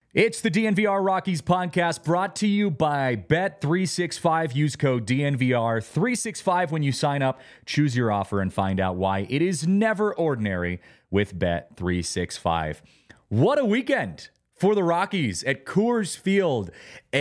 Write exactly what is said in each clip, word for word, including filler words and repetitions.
It's the D N V R Rockies podcast brought to you by Bet three sixty-five. Use code D N V R three sixty-five when you sign up. Choose your offer and find out why it is never ordinary with Bet three sixty-five. What a weekend for the Rockies at Coors Field.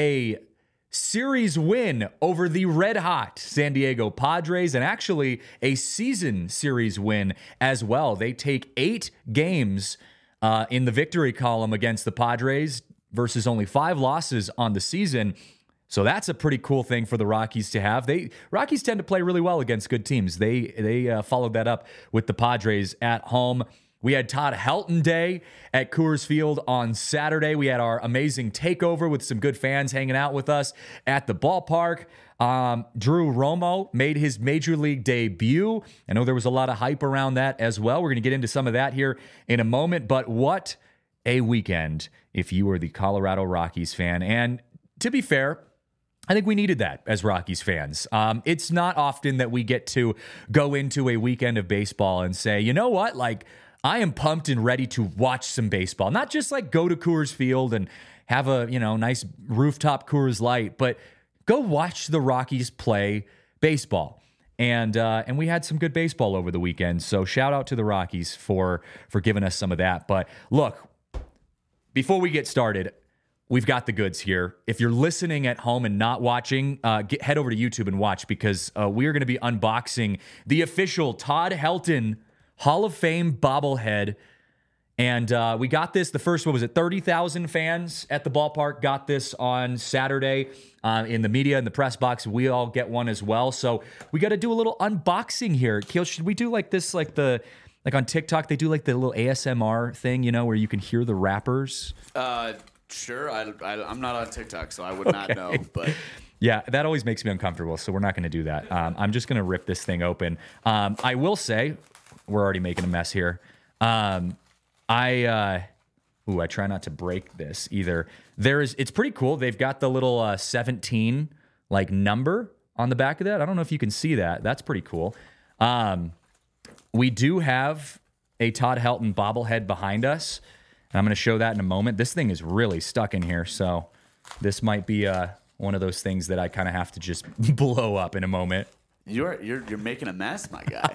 A series win over the red-hot San Diego Padres, and actually a season series win as well. They take eight games Uh, in the victory column against the Padres versus only five losses on the season. So that's a pretty cool thing for the Rockies to have. They Rockies tend to play really well against good teams. They they uh, followed that up with the Padres at home. We had Todd Helton Day at Coors Field on Saturday. We had our amazing takeover with some good fans hanging out with us at the ballpark. Um, Drew Romo made his Major League debut. I know there was a lot of hype around that as well. We're going to get into some of that here in a moment. But what a weekend if you were the Colorado Rockies fan. And to be fair, I think we needed that as Rockies fans. Um, it's not often that we get to go into a weekend of baseball and say, you know what, like, I am pumped and ready to watch some baseball. Not just like go to Coors Field and have a, you know, nice rooftop Coors Light, but go watch the Rockies play baseball. And uh, and we had some good baseball over the weekend. So shout out to the Rockies for for giving us some of that. But look, before we get started, we've got the goods here. If you're listening at home and not watching, uh, get, head over to YouTube and watch, because uh, we are going to be unboxing the official Todd Helton Hall of Fame bobblehead. And uh, we got this, the first one was at thirty thousand fans at the ballpark, got this on Saturday uh, in the media, in the press box. We all get one as well. So we got to do a little unboxing here. Keel, should we do like this, like the, like on TikTok, they do like the little A S M R thing, you know, where you can hear the rappers? Uh, sure. I, I, I'm not on TikTok, so I would not know, but... Yeah, that always makes me uncomfortable, so we're not going to do that. Um, I'm just going to rip this thing open. Um, I will say, we're already making a mess here. Um, I, uh, ooh, I try not to break this either. There is, it's pretty cool. They've got the little uh, seventeen like number on the back of that. I don't know if you can see that. That's pretty cool. Um, we do have a Todd Helton bobblehead behind us, and I'm going to show that in a moment. This thing is really stuck in here, so this might be uh, one of those things that I kind of have to just blow up in a moment. You're you're you're making a mess, my guy.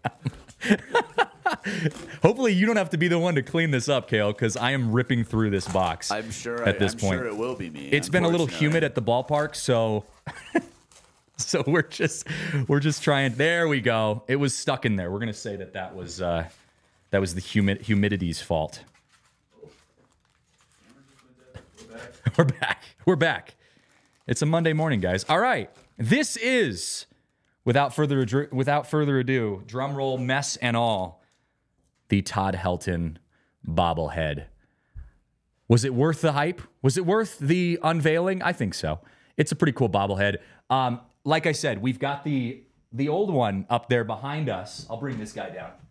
Hopefully you don't have to be the one to clean this up, Kale, because I am ripping through this box. I'm sure. At I, this I'm point, sure it will be me. It's been a little humid at the ballpark, so so we're just we're just trying. There we go. It was stuck in there. We're gonna say that that was uh, that was the humid humidity's fault. We're back. We're back. It's a Monday morning, guys. All right. This is, without further ado, without further ado, drum roll, mess and all, the Todd Helton bobblehead. Was it worth the hype? Was it worth the unveiling? I think so. It's a pretty cool bobblehead. Um, like I said, we've got the the old one up there behind us. I'll bring this guy down.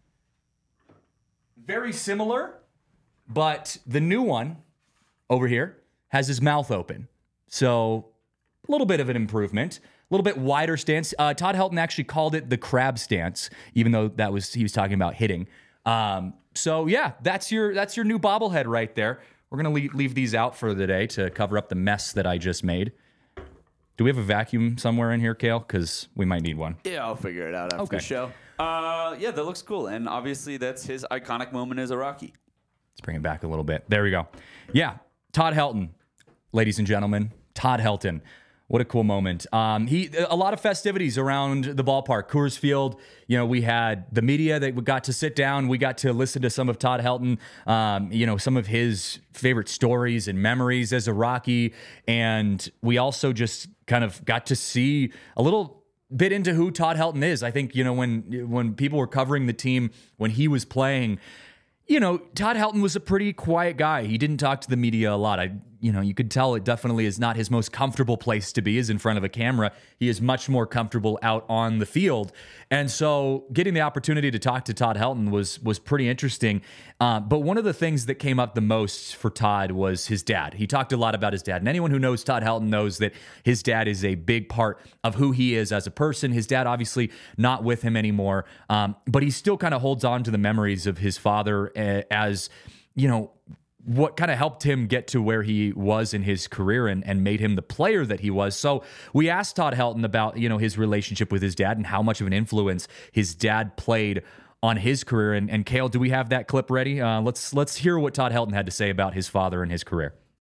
Very similar, but the new one over here has his mouth open. So a little bit of an improvement, a little bit wider stance. Uh, Todd Helton actually called it the crab stance, even though that was he was talking about hitting. Um, so yeah, that's your that's your new bobblehead right there. We're gonna leave, leave these out for the day to cover up the mess that I just made. Do we have a vacuum somewhere in here, Kale? Because we might need one. Yeah, I'll figure it out after Okay. the show. Uh, yeah, that looks cool, and obviously that's his iconic moment as a Rocky. Let's bring it back a little bit. There we go. Yeah, Todd Helton, ladies and gentlemen, Todd Helton. What a cool moment. Um, he a lot of festivities around the ballpark, Coors Field. You know, we had the media that we got to sit down. We got to listen to some of Todd Helton, um, you know, some of his favorite stories and memories as a Rocky. And we also just kind of got to see a little bit into who Todd Helton is. I think, you know, when when people were covering the team, when he was playing, you know, Todd Helton was a pretty quiet guy. He didn't talk to the media a lot. I, you know, you could tell it definitely is not his most comfortable place to be, is in front of a camera. He is much more comfortable out on the field. And so getting the opportunity to talk to Todd Helton was was pretty interesting. Uh, but one of the things that came up the most for Todd was his dad. He talked a lot about his dad. And anyone who knows Todd Helton knows that his dad is a big part of who he is as a person. His dad obviously not with him anymore, um, but he still kind of holds on to the memories of his father uh, as, you know, what kind of helped him get to where he was in his career and, and made him the player that he was. So we asked Todd Helton about, you know, his relationship with his dad and how much of an influence his dad played on his career. And, and Cale, do we have that clip ready? Uh, let's let's hear what Todd Helton had to say about his father and his career.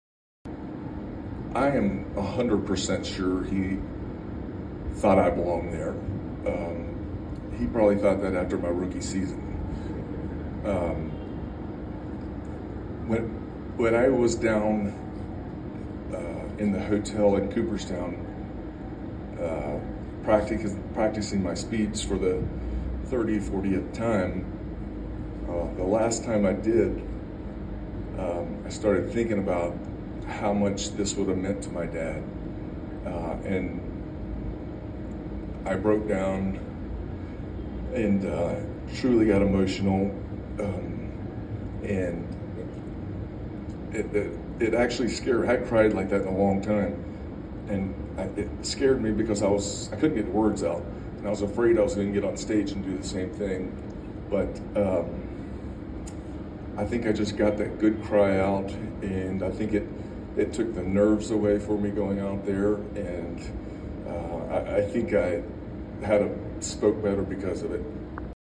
I am one hundred percent sure he thought I belonged there. Um, he probably thought that after my rookie season. Um, when when I was down uh, in the hotel in Cooperstown, uh, practic- practicing my speeds for the thirtieth, fortieth time, uh, the last time I did, um, I started thinking about how much this would have meant to my dad. Uh, and I broke down and uh, truly got emotional. Um, and it, it, it actually scared, I cried like that in a long time. And I, it scared me because I was, I couldn't get words out. And I was afraid I was going to get on stage and do the same thing. But um, I think I just got that good cry out, and I think it, it took the nerves away for me going out there. And uh, I, I think I had a, spoke better because of it.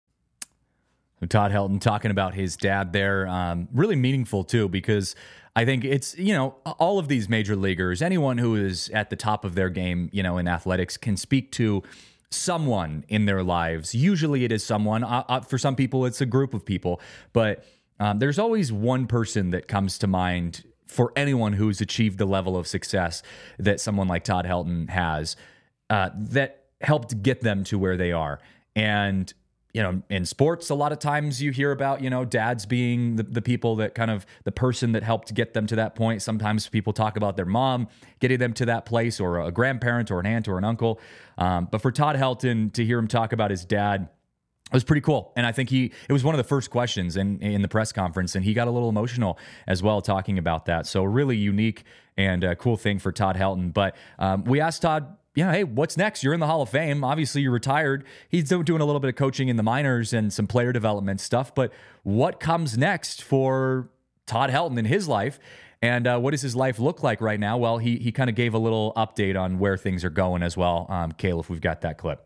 Todd Helton talking about his dad there, um, really meaningful too, because I think it's, you know, all of these major leaguers, anyone who is at the top of their game, you know, in athletics can speak to someone in their lives. Usually it is someone. Uh, uh, for some people, it's a group of people, but um, there's always one person that comes to mind for anyone who's achieved the level of success that someone like Todd Helton has, uh, that helped get them to where they are. And you know, in sports, a lot of times you hear about, you know, dads being the, the people that kind of the person that helped get them to that point. Sometimes people talk about their mom getting them to that place, or a grandparent or an aunt or an uncle. Um, but for Todd Helton to hear him talk about his dad, it was pretty cool. And I think he, it was one of the first questions in, in the press conference, and he got a little emotional as well talking about that. So really unique and a cool thing for Todd Helton. But um, we asked Todd, yeah, hey, what's next? You're in the Hall of Fame. Obviously, you're retired. He's doing a little bit of coaching in the minors and some player development stuff. But what comes next for Todd Helton in his life? And uh, what does his life look like right now? Well, he he kind of gave a little update on where things are going as well. Um, Cale, if we've got that clip.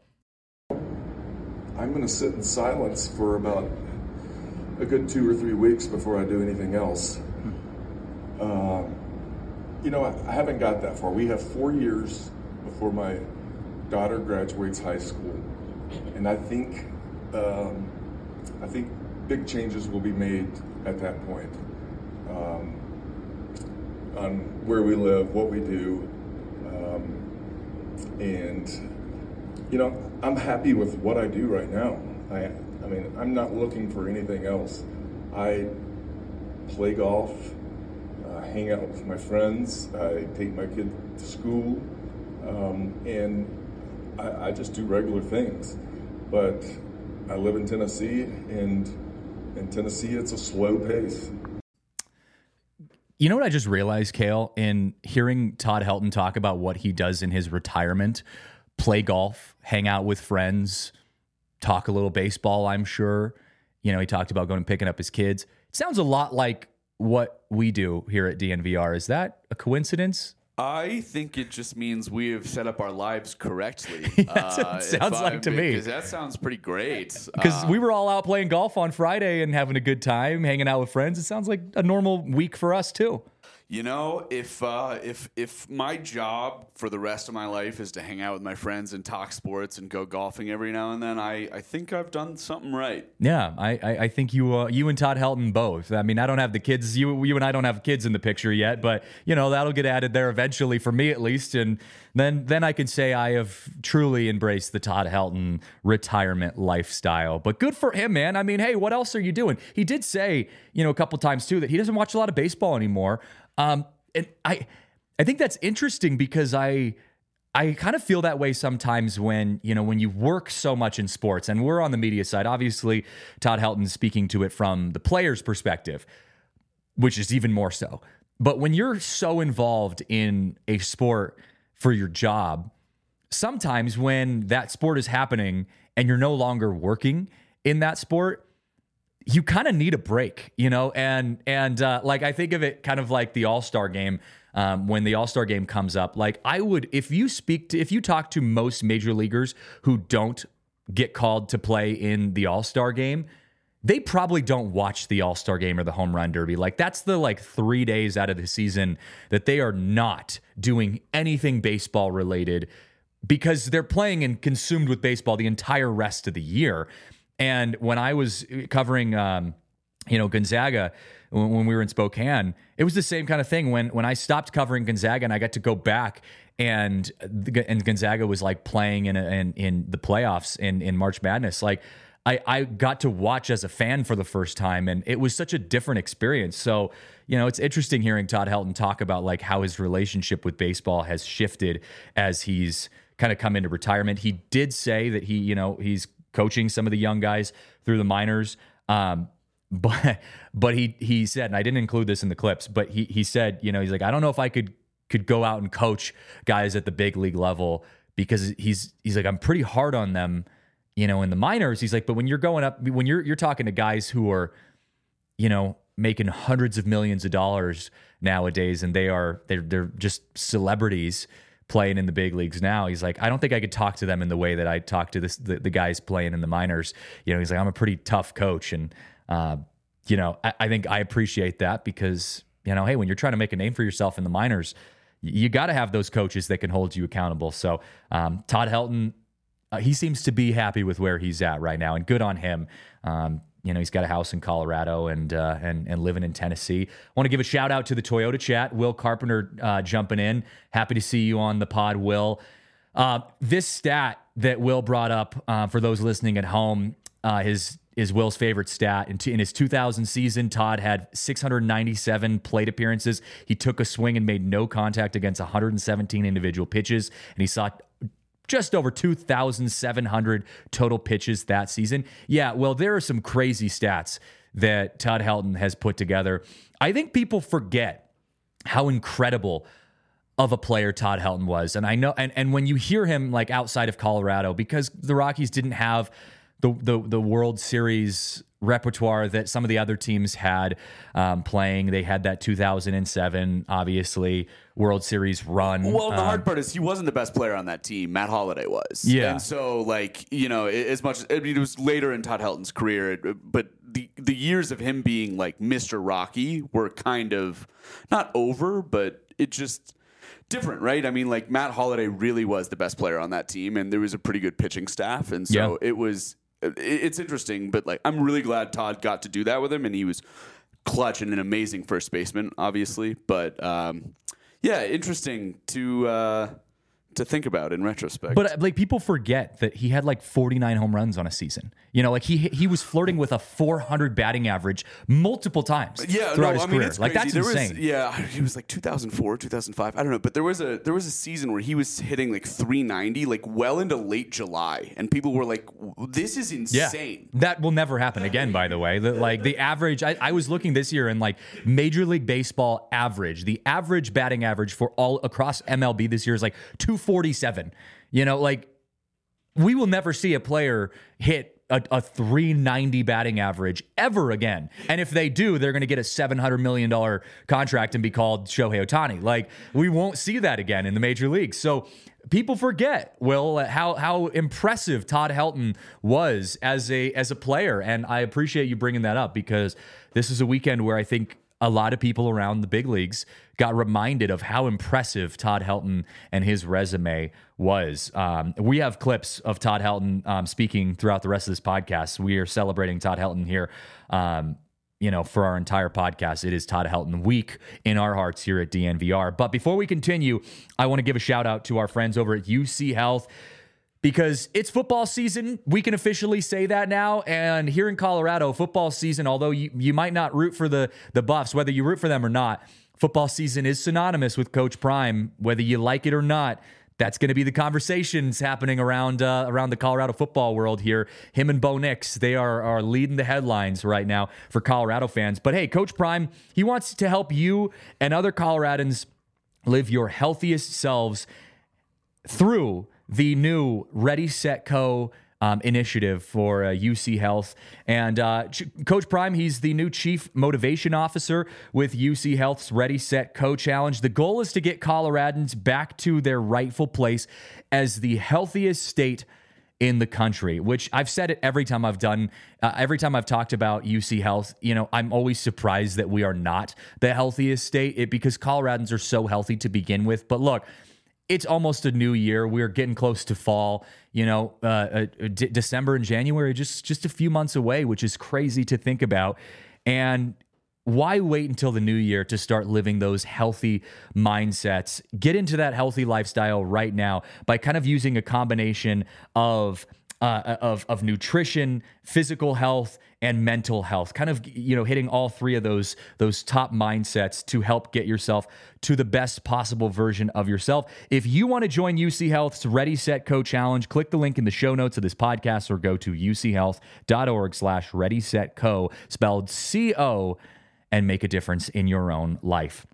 I'm going to sit in silence for about a good two or three weeks before I do anything else. Uh, you know, I, I haven't got that far. We have four years before my daughter graduates high school, and I think um, I think big changes will be made at that point, um, on where we live, what we do, um, and you know, I'm happy with what I do right now. I I mean, I'm not looking for anything else. I play golf, uh, hang out with my friends, I take my kid to school. Um, and I, I just do regular things, but I live in Tennessee, and in Tennessee, it's a slow pace. You know what I just realized, Cale, in hearing Todd Helton talk about what he does in his retirement, play golf, hang out with friends, talk a little baseball, I'm sure. You know, he talked about going and picking up his kids. It sounds a lot like what we do here at D N V R. Is that a coincidence? I think it just means we have set up our lives correctly. That's what it sounds uh, like to me. Because that sounds pretty great. Because uh, we were all out playing golf on Friday and having a good time, hanging out with friends. It sounds like a normal week for us too. You know, if uh, if if my job for the rest of my life is to hang out with my friends and talk sports and go golfing every now and then, I, I think I've done something right. Yeah, I I, I think you uh, you and Todd Helton both. I mean, I don't have the kids. You you and I don't have kids in the picture yet, but you know that'll get added there eventually for me at least, and then then I can say I have truly embraced the Todd Helton retirement lifestyle. But good for him, man. I mean, hey, what else are you doing? He did say, you know, a couple times too that he doesn't watch a lot of baseball anymore. Um, and I, I think that's interesting because I, I kind of feel that way sometimes when, you know, when you work so much in sports, and we're on the media side, obviously Todd Helton's speaking to it from the player's perspective, which is even more so. But when you're so involved in a sport for your job, sometimes when that sport is happening and you're no longer working in that sport, you kind of need a break, you know? And, and uh, like, I think of it kind of like the All-Star game. Um, when the All-Star game comes up, like I would, if you speak to, if you talk to most major leaguers who don't get called to play in the All-Star game, they probably don't watch the All-Star game or the home run derby. Like that's the like three days out of the season that they are not doing anything baseball related because they're playing and consumed with baseball the entire rest of the year. And when I was covering, um, you know, Gonzaga, when, when we were in Spokane, it was the same kind of thing. When when I stopped covering Gonzaga and I got to go back and and Gonzaga was like playing in a, in, in the playoffs in, in March Madness, like I, I got to watch as a fan for the first time, and it was such a different experience. So, you know, it's interesting hearing Todd Helton talk about like how his relationship with baseball has shifted as he's kind of come into retirement. He did say that he, you know, he's coaching some of the young guys through the minors. Um, but but he he said, and I didn't include this in the clips, but he he said, you know, he's like, I don't know if I could could go out and coach guys at the big league level because he's he's like, I'm pretty hard on them, you know, in the minors. He's like, but when you're going up, when you're you're talking to guys who are, you know, making hundreds of millions of dollars nowadays, and they are they're they're just celebrities playing in the big leagues now. He's like, I don't think I could talk to them in the way that I talk to this the, the guys playing in the minors. You know, he's like, I'm a pretty tough coach, and uh, you know, I, I think I appreciate that because, you know, hey, when you're trying to make a name for yourself in the minors, you got to have those coaches that can hold you accountable. So um, Todd Helton, uh, he seems to be happy with where he's at right now, and good on him. Um, you know, he's got a house in Colorado and uh, and and living in Tennessee. I want to give a shout out to the Toyota chat. Will Carpenter uh, jumping in. Happy to see you on the pod, Will. Uh, this stat that Will brought up uh, for those listening at home, uh, his is Will's favorite stat. In, t- in his two thousand season, Todd had six hundred ninety-seven plate appearances. He took a swing and made no contact against one hundred seventeen individual pitches, and he saw just over two thousand seven hundred total pitches that season. Yeah, well, there are some crazy stats that Todd Helton has put together. I think people forget how incredible of a player Todd Helton was. And I know, and, and when you hear him like outside of Colorado, because the Rockies didn't have the the, the World Series repertoire that some of the other teams had um, playing. They had that two thousand seven, obviously, World Series run. Well, the um, hard part is he wasn't the best player on that team. Matt Holliday was. Yeah. And so, like, you know, as much as, I mean, it was later in Todd Helton's career, but the, the years of him being, like, Mister Rocky were kind of not over, but it just different, right? I mean, like, Matt Holliday really was the best player on that team, and there was a pretty good pitching staff. And so yeah. it was... It's interesting, but like I'm really glad Todd got to do that with him, and he was clutch and an amazing first baseman, obviously. But um, yeah, interesting to uh, to think about in retrospect. But like people forget that he had like forty-nine home runs on a season. You know, like he he was flirting with a four hundred batting average multiple times yeah, throughout no, his I mean, career. it's Like that's there insane. Was, yeah, it was like two thousand four, two thousand five. I don't know, but there was a there was a season where he was hitting like three ninety, like well into late July, and people were like, "This is insane." Yeah. That will never happen again. By the way, the, like the average, I, I was looking this year and like Major League Baseball average, the average batting average for all across M L B this year is like two forty-seven. You know, like we will never see a player hit a, a three ninety batting average ever again. And if they do, they're going to get a seven hundred million dollars contract and be called Shohei Ohtani. Like we won't see that again in the major leagues. So people forget, Will, how how impressive Todd Helton was as a as a player. And I appreciate you bringing that up because this is a weekend where I think a lot of people around the big leagues got reminded of how impressive Todd Helton and his resume was. Um, we have clips of Todd Helton um, speaking throughout the rest of this podcast. We are celebrating Todd Helton here, um, you know, for our entire podcast. It is Todd Helton week in our hearts here at D N V R. But before we continue, I want to give a shout out to our friends over at U C Health. Because it's football season, we can officially say that now. And here in Colorado, football season, although you, you might not root for the, the Buffs, whether you root for them or not, football season is synonymous with Coach Prime. Whether you like it or not, that's going to be the conversations happening around uh, around the Colorado football world here. Him and Bo Nix, they are, are leading the headlines right now for Colorado fans. But hey, Coach Prime, he wants to help you and other Coloradans live your healthiest selves through the new Ready, Set, Co. um, initiative for uh, U C Health. And uh, Ch- Coach Prime, he's the new Chief Motivation Officer with U C Health's Ready, Set, Co Challenge. The goal is to get Coloradans back to their rightful place as the healthiest state in the country, which I've said it every time I've done, uh, every time I've talked about U C Health. You know, I'm always surprised that we are not the healthiest state it, because Coloradans are so healthy to begin with. But look, it's almost a new year. We're getting close to fall. You know, uh, uh, D- December and January, just just a few months away, which is crazy to think about. And why wait until the new year to start living those healthy mindsets? Get into that healthy lifestyle right now by kind of using a combination of uh, of of nutrition, physical health, and mental health. Kind of, you know, hitting all three of those those top mindsets to help get yourself to the best possible version of yourself. If you want to join U C Health's Ready, Set, Co Challenge, click the link in the show notes of this podcast or go to uchealth.org slash ready, set, co, spelled C O, and make a difference in your own life.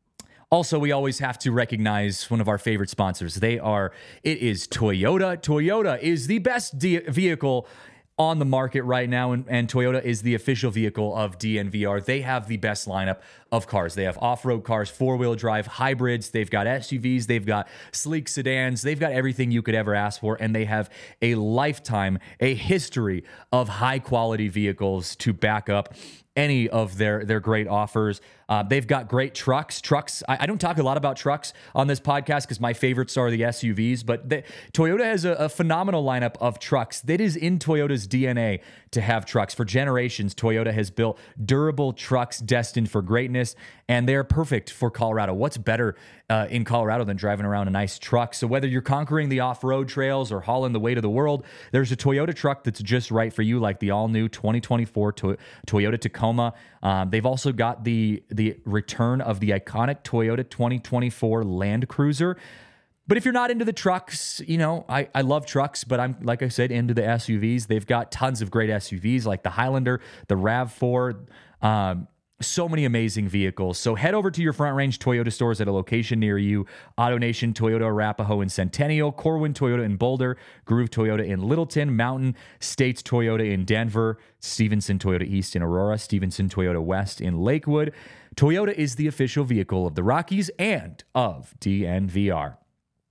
Also, we always have to recognize one of our favorite sponsors. They are, it is Toyota. Toyota is the best de- vehicle on the market right now, and, and Toyota is the official vehicle of D N V R. They have the best lineup of cars. They have off-road cars, four-wheel drive, hybrids. They've got S U Vs. They've got sleek sedans. They've got everything you could ever ask for, and they have a lifetime, a history of high-quality vehicles to back up any of their their great offers. Uh, they've got great trucks. Trucks. I, I don't talk a lot about trucks on this podcast because my favorites are the S U Vs, but the, Toyota has a, a phenomenal lineup of trucks. That is in Toyota's D N A to have trucks. For generations, Toyota has built durable trucks destined for greatness, and they're perfect for Colorado. What's better uh, in Colorado than driving around a nice truck? So whether you're conquering the off-road trails or hauling the weight of the world, there's a Toyota truck that's just right for you, like the all-new twenty twenty-four to- Toyota Tacoma. Um, they've also got the the return of the iconic Toyota twenty twenty-four Land Cruiser. But if you're not into the trucks, you know, I, I love trucks, but I'm, like I said, into the S U Vs. They've got tons of great S U Vs like the Highlander, the RAV four, um, so many amazing vehicles. So head over to your Front Range Toyota stores at a location near you. AutoNation Toyota Arapahoe in Centennial, Corwin Toyota in Boulder, Groove Toyota in Littleton, Mountain States Toyota in Denver, Stevenson Toyota East in Aurora, Stevenson Toyota West in Lakewood. Toyota is the official vehicle of the Rockies and of D N V R.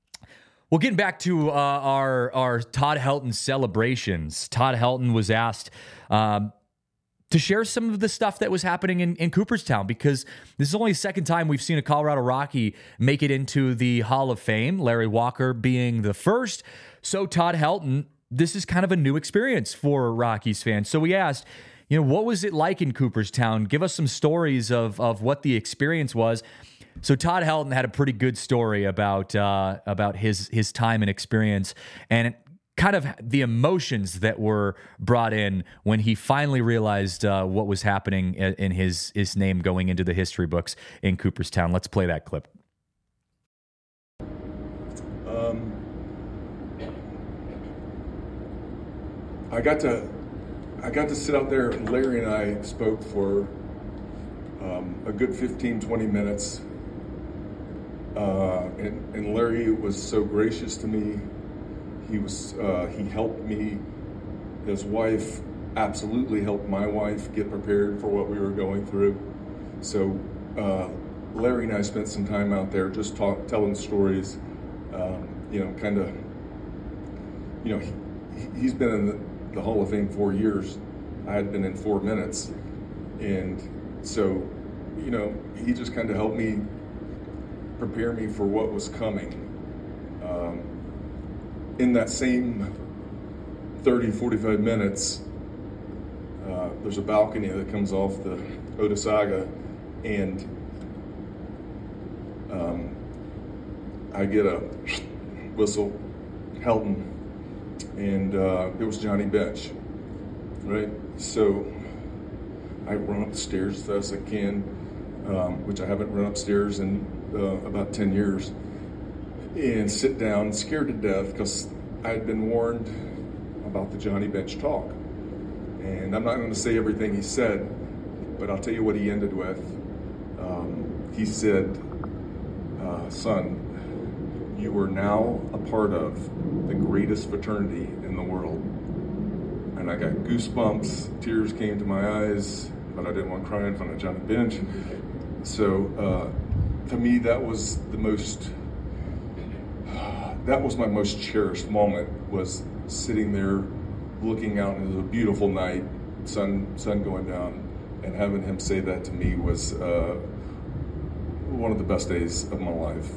Well, getting back to uh, our, our Todd Helton celebrations, Todd Helton was asked um, to share some of the stuff that was happening in, in Cooperstown, because this is only the second time we've seen a Colorado Rocky make it into the Hall of Fame, Larry Walker being the first. So Todd Helton, this is kind of a new experience for Rockies fans. So we asked, you know, what was it like in Cooperstown? Give us some stories of, of what the experience was. So Todd Helton had a pretty good story about uh, about his his time and experience, and kind of the emotions that were brought in when he finally realized uh, what was happening in his his name going into the history books in Cooperstown. Let's play that clip. Um, I got to I got to sit out there, and Larry and I spoke for um, a good fifteen, twenty minutes. Uh, and, and Larry was so gracious to me. He was, uh, he helped me. His wife absolutely helped my wife get prepared for what we were going through. So uh, Larry and I spent some time out there just talk, telling stories. Um, you know, kind of, you know, he, he's been in the, the Hall of Fame four years. I had been in four minutes. And so, you know, he just kind of helped me prepare me for what was coming. Um, in that same thirty, forty-five minutes, uh, there's a balcony that comes off the Otesaga, and um, I get a whistle, Helton, and uh, it was Johnny Bench, right? So I run up the stairs as fast as I can, um, which I haven't run upstairs in Uh, about ten years, and sit down scared to death because I had been warned about the Johnny Bench talk. And I'm not going to say everything he said, but I'll tell you what he ended with. Um, he said, uh, son, you are now a part of the greatest fraternity in the world. and I got goosebumps. Tears came to my eyes, but I didn't want to cry in front of Johnny Bench. So uh, to me, that was the most, that was my most cherished moment, was sitting there looking out into a beautiful night, sun sun going down, and having him say that to me was uh, one of the best days of my life.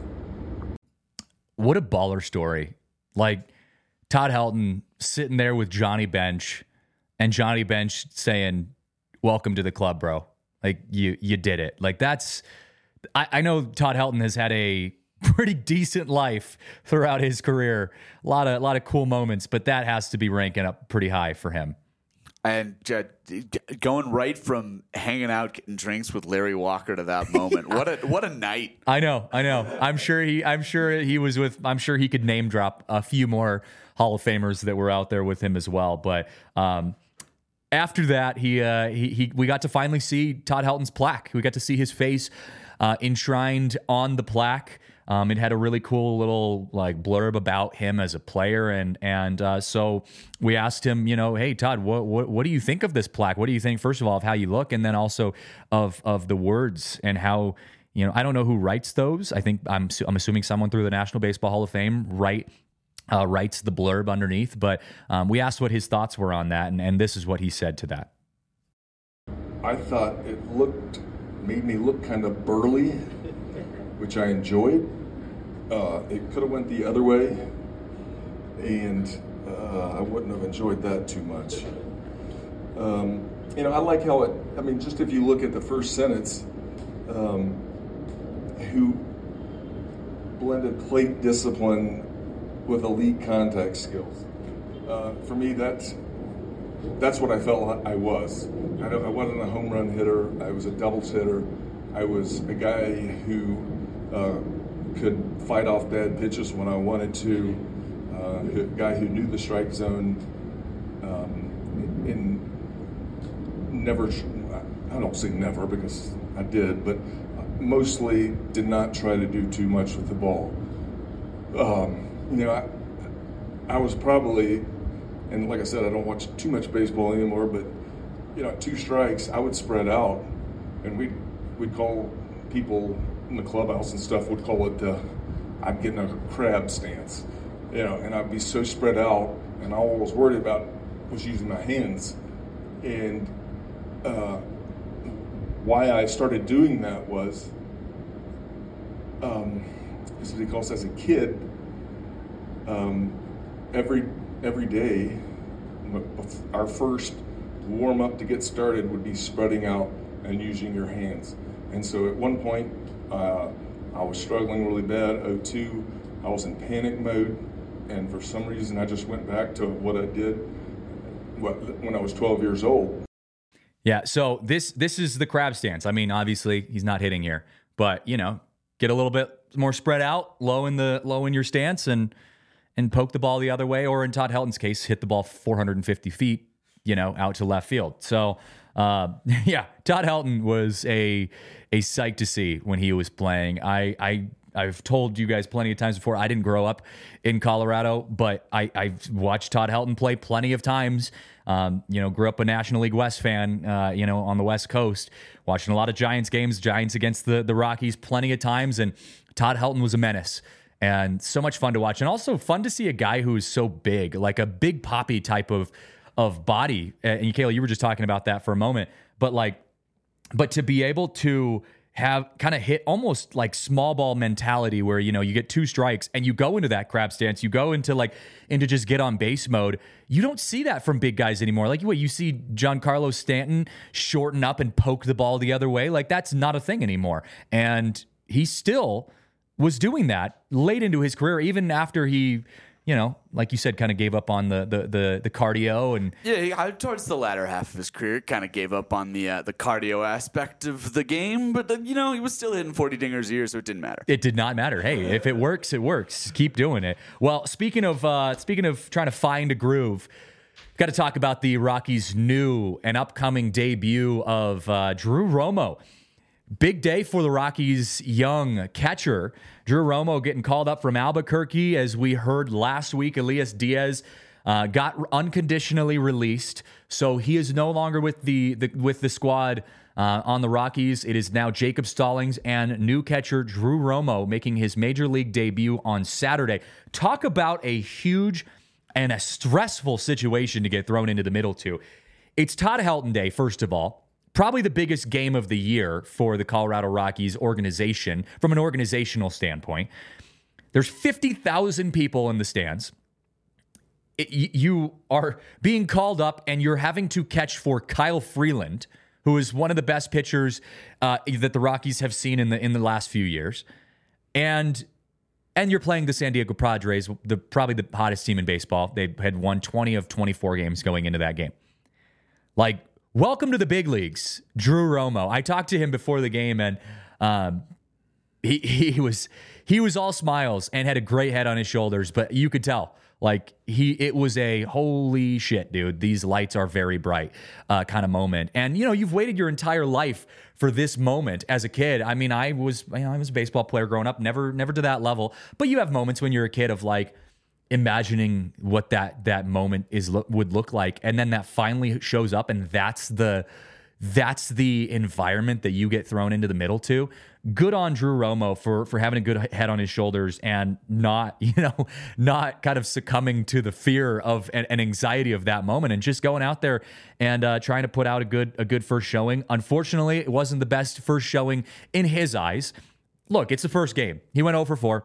What a baller story. Like Todd Helton sitting there with Johnny Bench, and Johnny Bench saying, "Welcome to the club, bro. Like you you did it." Like that's, I, I know Todd Helton has had a pretty decent life throughout his career. A lot of a lot of cool moments, but that has to be ranking up pretty high for him. And uh, going right from hanging out, getting drinks with Larry Walker to that moment, what a what a night! I know, I know. I'm sure he, I'm sure he was with. I'm sure he could name drop a few more Hall of Famers that were out there with him as well. But um, after that, he, uh, he, he, we got to finally see Todd Helton's plaque. We got to see his face uh, enshrined on the plaque. Um, it had a really cool little like blurb about him as a player, and and uh, so we asked him, you know, hey Todd, what, what what do you think of this plaque? What do you think, first of all, of how you look, and then also of of the words and how, you know, I don't know who writes those. I think I'm I'm assuming someone through the National Baseball Hall of Fame write uh, writes the blurb underneath. But um, we asked what his thoughts were on that, and and this is what he said to that. I thought it looked made me look kind of burly, which I enjoyed. Uh, it could have went the other way, and uh, I wouldn't have enjoyed that too much. Um, you know, I like how it, I mean, just if you look at the first sentence, um, who blended plate discipline with elite contact skills. Uh, for me, that's, that's what I felt I was. I, don't, I wasn't a home run hitter. I was a doubles hitter. I was a guy who uh, could fight off bad pitches when I wanted to, uh, a guy who knew the strike zone, um, and never, I don't say never because I did, but mostly did not try to do too much with the ball. Um, you know, I, I was probably, and like I said, I don't watch too much baseball anymore, but, you know, two strikes, I would spread out, and we'd, we'd call people in the clubhouse and stuff would call it, uh, I'm getting a crab stance, you know, and I'd be so spread out, and all I was worried about was using my hands. And uh, why I started doing that was, um, is because as a kid, um, every every day, our first warm up to get started would be spreading out and using your hands. And so at one point, uh, I was struggling really bad. oh two, I was in panic mode, and for some reason, I just went back to what I did when I was twelve years old. Yeah, so this this is the crab stance. I mean, obviously, he's not hitting here, but you know, get a little bit more spread out, low in the low in your stance, and and poke the ball the other way, or in Todd Helton's case, hit the ball four hundred fifty feet, you know, out to left field. So, uh, yeah, Todd Helton was a a sight to see when he was playing. I I I've told you guys plenty of times before, I didn't grow up in Colorado, but I, I've watched Todd Helton play plenty of times. Um, you know, grew up a National League West fan, uh, you know, on the West Coast, watching a lot of Giants games, Giants against the, the Rockies plenty of times. And Todd Helton was a menace and so much fun to watch. And also fun to see a guy who is so big, like a big poppy type of, of body. And Kayla, you were just talking about that for a moment, but like, but to be able to have kind of hit almost like small ball mentality where, you know, you get two strikes and you go into that crab stance, you go into like, into just get on base mode. You don't see that from big guys anymore. Like what you see Giancarlo Stanton shorten up and poke the ball the other way. Like that's not a thing anymore. And he still was doing that late into his career, even after he, you know, like you said, kind of gave up on the the the, the cardio and yeah, towards the latter half of his career, kind of gave up on the uh, the cardio aspect of the game. But uh, you know, he was still hitting forty dingers a year, so it didn't matter. It did not matter. Hey, if it works, it works. Keep doing it. Well, speaking of uh, speaking of trying to find a groove, got to talk about the Rockies' new and upcoming debut of uh, Drew Romo. Big day for the Rockies' young catcher. Drew Romo getting called up from Albuquerque, as we heard last week. Elias Diaz uh, got unconditionally released, so he is no longer with the, the with the squad uh, on the Rockies. It is now Jacob Stallings and new catcher Drew Romo making his major league debut on Saturday. Talk about a huge and a stressful situation to get thrown into the middle to. It's Todd Helton Day, first of all. Probably the biggest game of the year for the Colorado Rockies organization from an organizational standpoint. There's fifty thousand people in the stands. It, you are being called up and you're having to catch for Kyle Freeland, who is one of the best pitchers uh, that the Rockies have seen in the in the last few years. And and you're playing the San Diego Padres, the probably the hottest team in baseball. They had won twenty of twenty-four games going into that game. Like, welcome to the big leagues, Drew Romo. I talked to him before the game, and um, he he was he was all smiles and had a great head on his shoulders. But you could tell, like he it was a holy shit, dude. These lights are very bright uh, kind of moment. And you know, you've waited your entire life for this moment as a kid. I mean, I was you know, I was a baseball player growing up, never never to that level. But you have moments when you're a kid of like, imagining what that that moment is would look like, and then that finally shows up, and that's the that's the environment that you get thrown into the middle to. Good on Drew Romo for for having a good head on his shoulders and not you know not kind of succumbing to the fear of and, and anxiety of that moment, and just going out there and uh, trying to put out a good a good first showing. Unfortunately, it wasn't the best first showing in his eyes. Look, it's the first game. He went oh for four.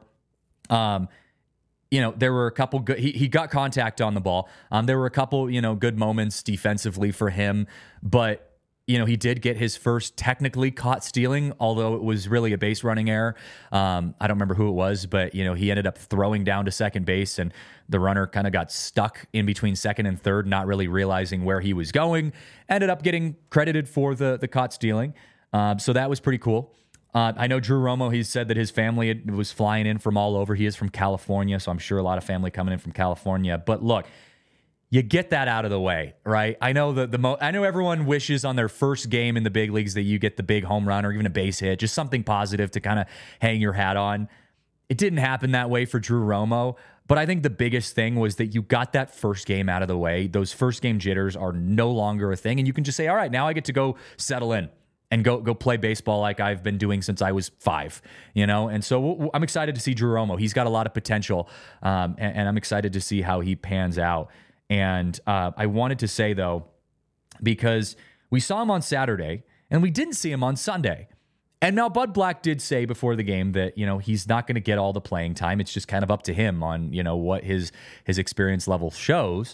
Um, You know, there were a couple good, he, he got contact on the ball. Um, there were a couple, you know, good moments defensively for him, but, you know, he did get his first technically caught stealing, although it was really a base running error. Um, I don't remember who it was, but, you know, he ended up throwing down to second base, and the runner kind of got stuck in between second and third, not really realizing where he was going. Ended up getting credited for the, the caught stealing. Um, so that was pretty cool. Uh, I know Drew Romo, he said that his family had, was flying in from all over. He is from California, so I'm sure a lot of family coming in from California. But look, you get that out of the way, right? I know the the mo- I know everyone wishes on their first game in the big leagues that you get the big home run or even a base hit, just something positive to kind of hang your hat on. It didn't happen that way for Drew Romo, but I think the biggest thing was that you got that first game out of the way. Those first game jitters are no longer a thing, and you can just say, all right, now I get to go settle in and go go play baseball like I've been doing since I was five, you know? And so w- w- I'm excited to see Drew Romo. He's got a lot of potential, um, and, and I'm excited to see how he pans out. And uh, I wanted to say, though, because we saw him on Saturday, and we didn't see him on Sunday. And now Bud Black did say before the game that, you know, he's not going to get all the playing time. It's just kind of up to him on, you know, what his his experience level shows.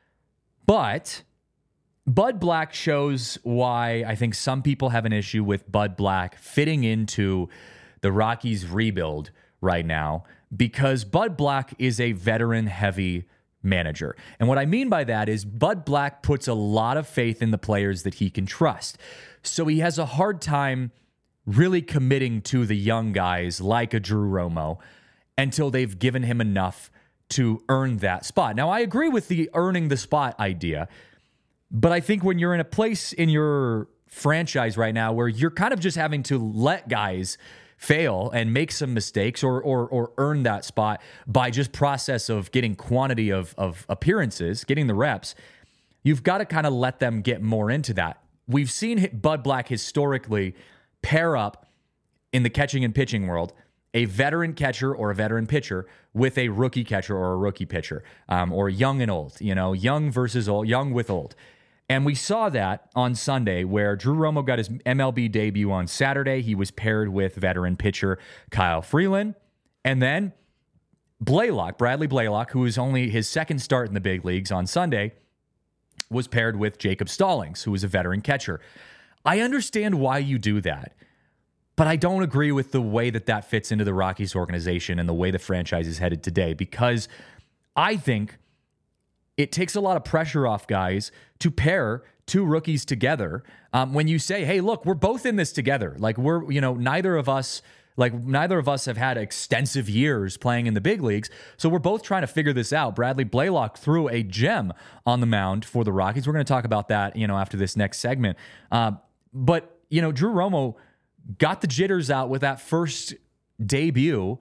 But Bud Black shows why I think some people have an issue with Bud Black fitting into the Rockies rebuild right now, because Bud Black is a veteran-heavy manager. And what I mean by that is Bud Black puts a lot of faith in the players that he can trust. So he has a hard time really committing to the young guys like a Drew Romo until they've given him enough to earn that spot. Now, I agree with the earning the spot idea, but I think when you're in a place in your franchise right now where you're kind of just having to let guys fail and make some mistakes or or or earn that spot by just process of getting quantity of of appearances, getting the reps, you've got to kind of let them get more into that. We've seen Bud Black historically pair up in the catching and pitching world a veteran catcher or a veteran pitcher with a rookie catcher or a rookie pitcher, um, or young and old, you know, young versus old, young with old. And we saw that on Sunday where Drew Romo got his M L B debut on Saturday. He was paired with veteran pitcher Kyle Freeland. And then Blaylock, Bradley Blaylock, who was only his second start in the big leagues on Sunday, was paired with Jacob Stallings, who was a veteran catcher. I understand why you do that, but I don't agree with the way that that fits into the Rockies organization and the way the franchise is headed today, because I think it takes a lot of pressure off guys to pair two rookies together. Um, when you say, hey, look, we're both in this together. Like we're, you know, neither of us, like neither of us have had extensive years playing in the big leagues. So we're both trying to figure this out. Bradley Blaylock threw a gem on the mound for the Rockies. We're going to talk about that, you know, after this next segment. Uh, but, you know, Drew Romo got the jitters out with that first debut,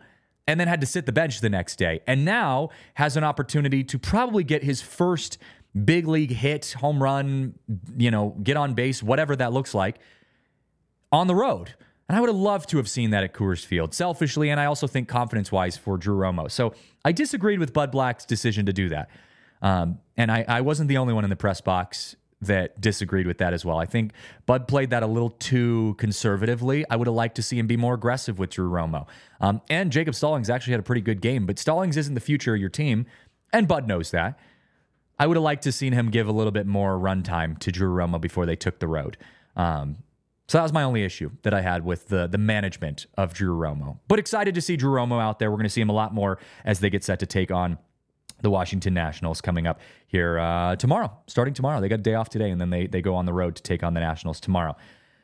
and then had to sit the bench the next day, and now has an opportunity to probably get his first big league hit, home run, you know, get on base, whatever that looks like, on the road. And I would have loved to have seen that at Coors Field, selfishly, and I also think confidence-wise for Drew Romo. So I disagreed with Bud Black's decision to do that. Um, and I, I wasn't the only one in the press box that disagreed with that as well. I think Bud played that a little too conservatively. I would have liked to see him be more aggressive with Drew Romo. Um, and Jacob Stallings actually had a pretty good game, but Stallings isn't the future of your team, and Bud knows that. I would have liked to seen him give a little bit more run time to Drew Romo before they took the road. Um, so that was my only issue that I had with the, the management of Drew Romo. But excited to see Drew Romo out there. We're going to see him a lot more as they get set to take on the Washington Nationals coming up here uh, tomorrow, starting tomorrow. They got a day off today, and then they they go on the road to take on the Nationals tomorrow.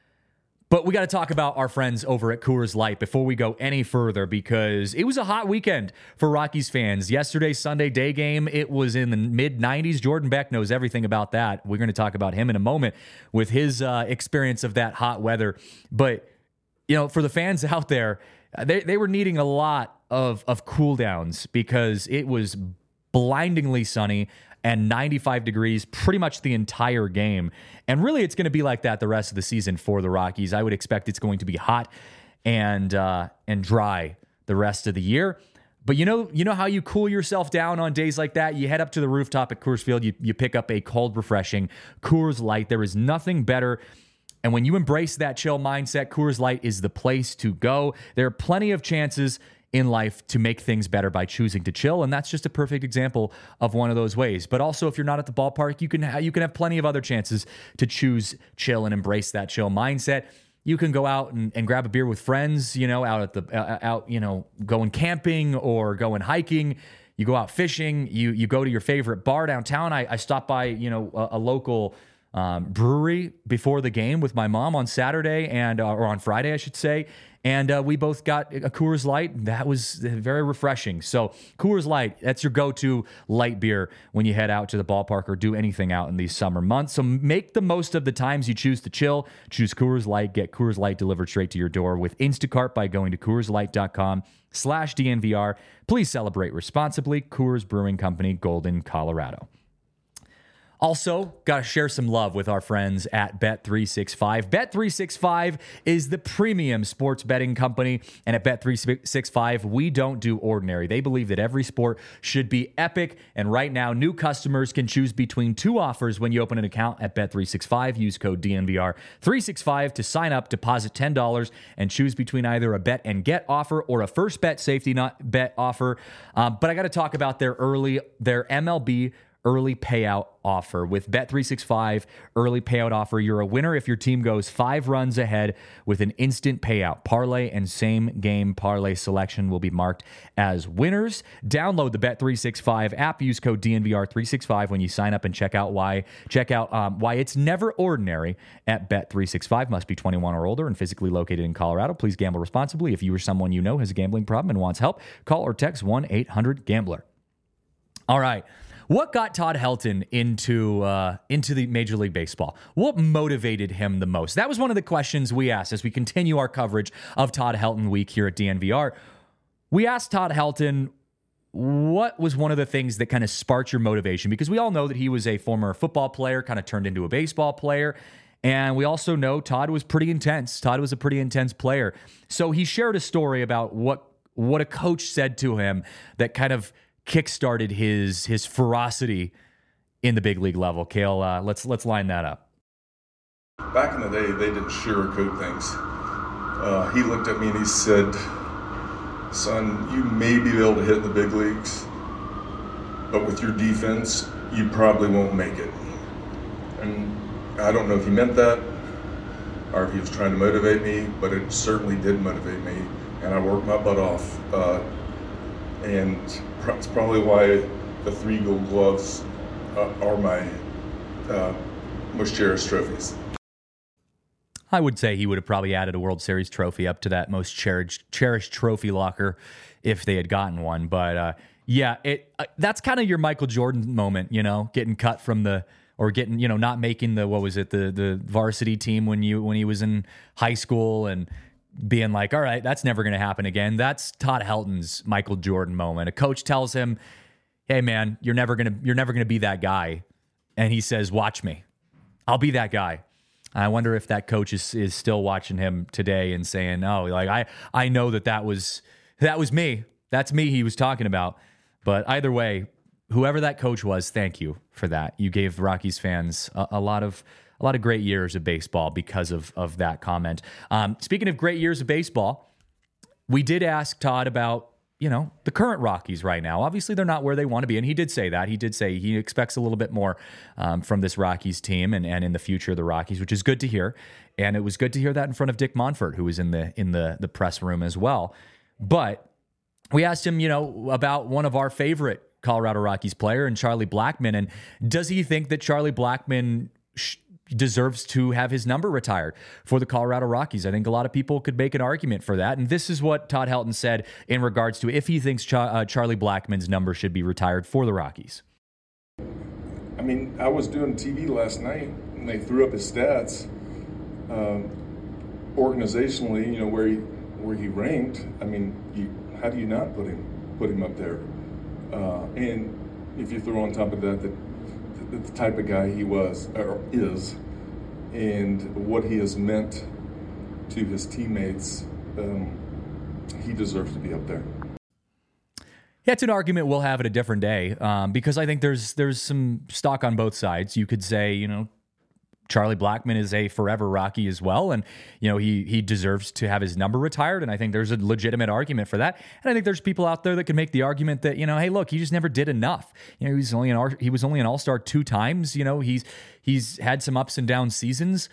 But we got to talk about our friends over at Coors Light before we go any further, because it was a hot weekend for Rockies fans. Yesterday's Sunday day game, it was in the mid nineties. Jordan Beck knows everything about that. We're going to talk about him in a moment with his uh, experience of that hot weather. But, you know, for the fans out there, they, they were needing a lot of, of cool downs because it was blindingly sunny and ninety-five degrees pretty much the entire game. And really, it's going to be like that the rest of the season for the Rockies. I would expect it's going to be hot and uh, and dry the rest of the year. But you know, you know how you cool yourself down on days like that? You head up to the rooftop at Coors Field, you, you pick up a cold, refreshing Coors Light. There is nothing better. And when you embrace that chill mindset, Coors Light is the place to go. There are plenty of chances in life to make things better by choosing to chill, and that's just a perfect example of one of those ways. But also, if you're not at the ballpark, you can ha- you can have plenty of other chances to choose chill and embrace that chill mindset. You can go out and, and grab a beer with friends, you know, out at the uh, out, you know, going camping or going hiking. You go out fishing. You you go to your favorite bar downtown. I, I stopped by, you know, a, a local um, brewery before the game with my mom on Saturday and uh, or on Friday, I should say. And uh, we both got a Coors Light. That was very refreshing. So Coors Light, that's your go-to light beer when you head out to the ballpark or do anything out in these summer months. So make the most of the times you choose to chill. Choose Coors Light. Get Coors Light delivered straight to your door with Instacart by going to CoorsLight.com slash DNVR. Please celebrate responsibly. Coors Brewing Company, Golden, Colorado. Also, got to share some love with our friends at Bet three sixty-five. Bet three sixty-five is the premium sports betting company, and at Bet three sixty-five, we don't do ordinary. They believe that every sport should be epic, and right now, new customers can choose between two offers when you open an account at Bet three sixty-five. Use code D N V R three sixty-five to sign up, deposit ten dollars, and choose between either a bet and get offer or a first bet safety not bet offer. Um, but I got to talk about their early, their M L B early payout offer. With Bet three sixty-five early payout offer, you're a winner if your team goes five runs ahead with an instant payout. Parlay and same game parlay selection will be marked as winners. Download the Bet three sixty-five app. Use code D N V R three sixty-five when you sign up and check out why check out um, why it's never ordinary at Bet three sixty-five. Must be twenty-one or older and physically located in Colorado. Please gamble responsibly. If you or someone you know has a gambling problem and wants help, call or text one eight hundred gambler. All right. What got Todd Helton into uh, into the Major League Baseball? What motivated him the most? That was one of the questions we asked as we continue our coverage of Todd Helton Week here at D N V R. We asked Todd Helton, what was one of the things that kind of sparked your motivation? Because we all know that he was a former football player, kind of turned into a baseball player. And we also know Todd was pretty intense. Todd was a pretty intense player. So he shared a story about what what a coach said to him that kind of kickstarted his his ferocity in the big league level. Kale, uh, let's let's line that up. Back in the day, they didn't sugarcoat things. Uh, he looked at me and he said, "Son, you may be able to hit in the big leagues, but with your defense, you probably won't make it." And I don't know if he meant that or if he was trying to motivate me, but it certainly did motivate me, and I worked my butt off. Uh, and it's probably why the three gold gloves uh, are my uh, most cherished trophies. I would say he would have probably added a World Series trophy up to that most cherished cherished trophy locker if they had gotten one. But uh, yeah, it uh, that's kind of your Michael Jordan moment, you know, getting cut from the or getting, you know, not making the what was it the the varsity team when you when he was in high school and being like, all right, that's never going to happen again. That's Todd Helton's Michael Jordan moment. A coach tells him, hey man, you're never going to, you're never going to be that guy. And he says, watch me. I'll be that guy. I wonder if that coach is, is still watching him today and saying, oh, like I, I know that that was, that was me. That's me he was talking about. But either way, whoever that coach was, thank you for that. You gave Rockies fans a, a lot of, a lot of great years of baseball because of, of that comment. Um, speaking of great years of baseball, we did ask Todd about, you know, the current Rockies right now. Obviously, they're not where they want to be, and he did say that. He did say he expects a little bit more um, from this Rockies team and, and in the future of the Rockies, which is good to hear. And it was good to hear that in front of Dick Monfort, who was in the in the the press room as well. But we asked him, you know, about one of our favorite Colorado Rockies player, and Charlie Blackmon, and does he think that Charlie Blackmon sh- deserves to have his number retired for the Colorado Rockies? I think a lot of people could make an argument for that. And this is what Todd Helton said in regards to if he thinks Ch- uh, Charlie Blackmon's number should be retired for the Rockies. I mean, I was doing T V last night and they threw up his stats um, organizationally, you know, where he where he ranked. I mean, you, how do you not put him put him up there? Uh, and if you throw on top of that the, the, the type of guy he was or is, and what he has meant to his teammates, um, he deserves to be up there. Yeah, it's an argument we'll have at a different day um, because I think there's there's some stock on both sides. You could say, you know, Charlie Blackmon is a forever Rocky as well, and you know he he deserves to have his number retired, and I think there's a legitimate argument for that. And I think there's people out there that can make the argument that, you know, hey, look, he just never did enough. You know, he's only an he was only an All-Star two times. You know, he's he's had some ups and down seasons.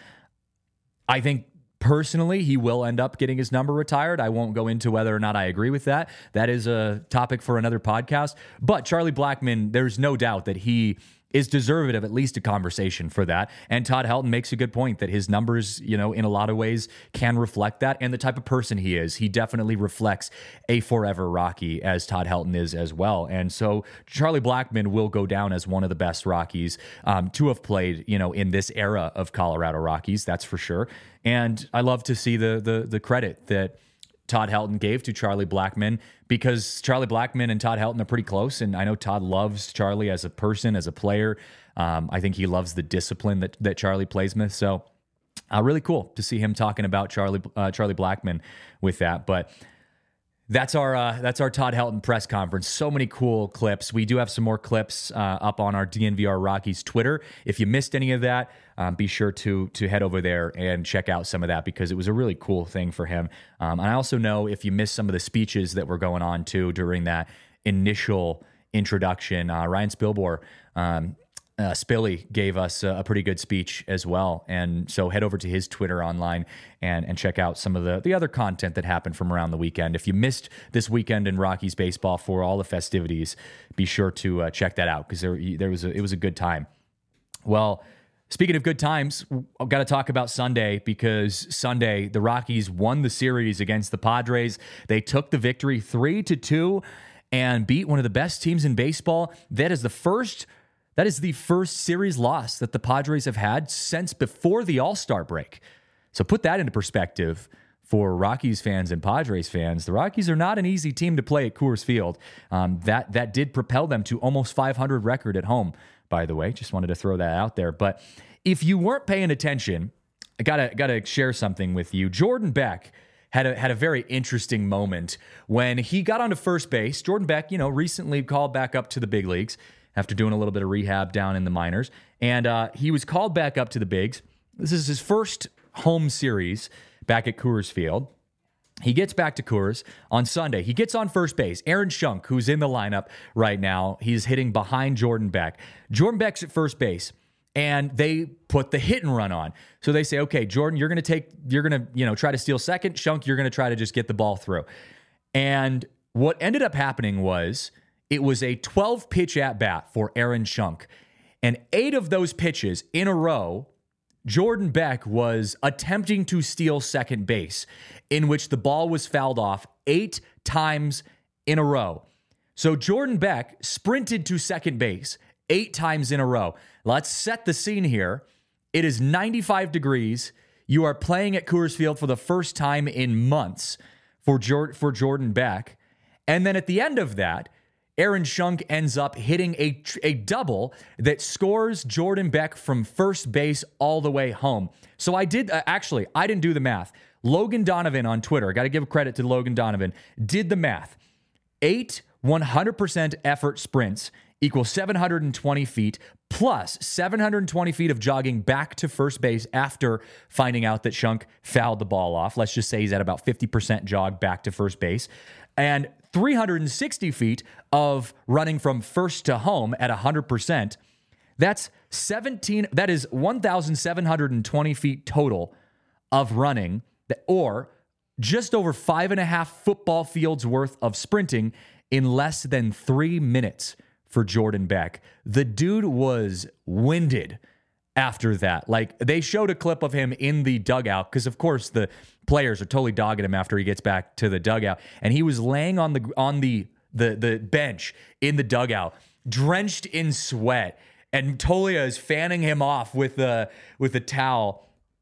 I think personally, he will end up getting his number retired. I won't go into whether or not I agree with that. That is a topic for another podcast. But Charlie Blackmon, there's no doubt that he is deserving of at least a conversation for that. And Todd Helton makes a good point that his numbers, you know, in a lot of ways can reflect that. And the type of person he is, he definitely reflects a forever Rocky, as Todd Helton is as well. And so Charlie Blackmon will go down as one of the best Rockies um, to have played, you know, in this era of Colorado Rockies. That's for sure. And I love to see the the the credit that Todd Helton gave to Charlie Blackmon, because Charlie Blackmon and Todd Helton are pretty close, and I know Todd loves Charlie as a person, as a player. Um, I think he loves the discipline that that Charlie plays with. So, uh, really cool to see him talking about Charlie uh, Charlie Blackmon with that. But that's our uh, that's our Todd Helton press conference. So many cool clips. We do have some more clips uh, up on our D N V R Rockies Twitter. If you missed any of that, um, be sure to to head over there and check out some of that, because it was a really cool thing for him. Um, and I also know if you missed some of the speeches that were going on too during that initial introduction, uh, Ryan Spilbor, um, Uh, Spilly gave us a, a pretty good speech as well. And so head over to his Twitter online and, and check out some of the, the other content that happened from around the weekend. If you missed this weekend in Rockies baseball for all the festivities, be sure to uh, check that out, because there, there was a, it was a good time. Well, speaking of good times, I've got to talk about Sunday, because Sunday the Rockies won the series against the Padres. They took the victory three to two and beat one of the best teams in baseball. That is the first That is the first series loss that the Padres have had since before the All-Star break. So put that into perspective for Rockies fans and Padres fans. The Rockies are not an easy team to play at Coors Field. Um, that that did propel them to almost five hundred record at home, by the way. Just wanted to throw that out there. But if you weren't paying attention, I gotta gotta share something with you. Jordan Beck had a had a very interesting moment when he got onto first base. Jordan Beck, you know, recently called back up to the big leagues after doing a little bit of rehab down in the minors. And uh, he was called back up to the bigs. This is his first home series back at Coors Field. He gets back to Coors on Sunday. He gets on first base. Aaron Schunk, who's in the lineup right now, he's hitting behind Jordan Beck. Jordan Beck's at first base, and they put the hit and run on. So they say, okay, Jordan, you're going to take, you're going to, you know, try to steal second. Schunk, you're going to try to just get the ball through. And what ended up happening was, it was a twelve-pitch at-bat for Aaron Schunk. And eight of those pitches in a row, Jordan Beck was attempting to steal second base, in which the ball was fouled off eight times in a row. So Jordan Beck sprinted to second base eight times in a row. Let's set the scene here. It is ninety-five degrees. You are playing at Coors Field for the first time in months for Jor- for Jordan Beck. And then at the end of that, Aaron Schunk ends up hitting a, a double that scores Jordan Beck from first base all the way home. So I did, uh, actually, I didn't do the math. Logan Donovan on Twitter, got to give credit to Logan Donovan, did the math. Eight one hundred percent effort sprints equals seven hundred twenty feet plus seven hundred twenty feet of jogging back to first base after finding out that Schunk fouled the ball off. Let's just say he's at about fifty percent jog back to first base. And three hundred sixty feet of running from first to home at one hundred percent. That's seventeen, that is one thousand seven hundred twenty feet total of running, or just over five and a half football fields worth of sprinting in less than three minutes for Jordan Beck. The dude was winded after that. Like, they showed a clip of him in the dugout because, of course, the players are totally dogging him after he gets back to the dugout, and he was laying on the on the the the bench in the dugout, drenched in sweat, and Tolia is fanning him off with the with a towel.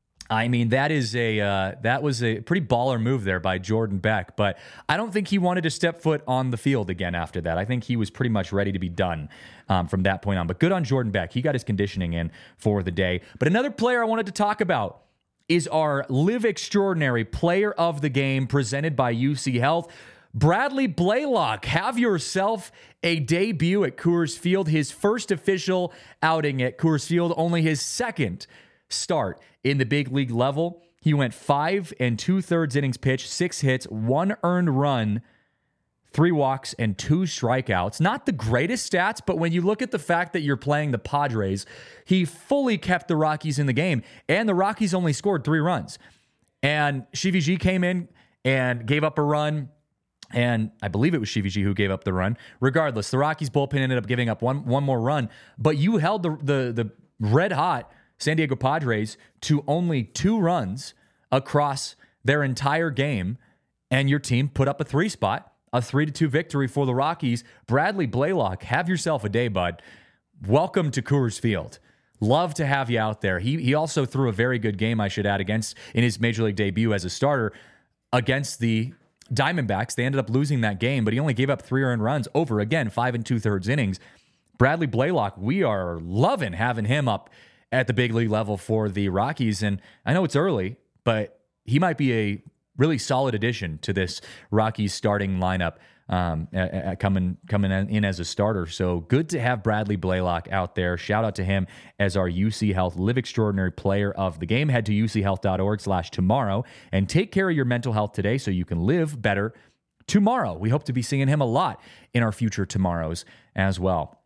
I mean, that is a uh, that was a pretty baller move there by Jordan Beck, but I don't think he wanted to step foot on the field again after that. I think he was pretty much ready to be done um, from that point on. But good on Jordan Beck. He got his conditioning in for the day. But another player I wanted to talk about is our Live Extraordinary Player of the Game presented by U C Health. Bradley Blaylock, have yourself a debut at Coors Field. His first official outing at Coors Field, only his second start in the big league level. He went five and two-thirds innings pitched, six hits, one earned run, three walks, and two strikeouts. Not the greatest stats, but when you look at the fact that you're playing the Padres, he fully kept the Rockies in the game, and the Rockies only scored three runs. And Shivi G came in and gave up a run, and I believe it was Shivi G who gave up the run. Regardless, the Rockies bullpen ended up giving up one one more run, but you held the the, the red-hot San Diego Padres to only two runs across their entire game, and your team put up a three spot, a three to two victory for the Rockies. Bradley Blaylock, have yourself a day, bud. Welcome to Coors Field. Love to have you out there. He he also threw a very good game, I should add, against in his major league debut as a starter against the Diamondbacks. They ended up losing that game, but he only gave up three earned runs over, again, five and two-thirds innings. Bradley Blaylock, we are loving having him up at the big league level for the Rockies. And I know it's early, but he might be a really solid addition to this Rockies starting lineup um, uh, uh, coming coming in as a starter. So good to have Bradley Blaylock out there. Shout out to him as our U C Health Live Extraordinary Player of the Game. Head to uchealth.org slash tomorrow and take care of your mental health today so you can live better tomorrow. We hope to be seeing him a lot in our future tomorrows as well.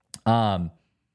Um,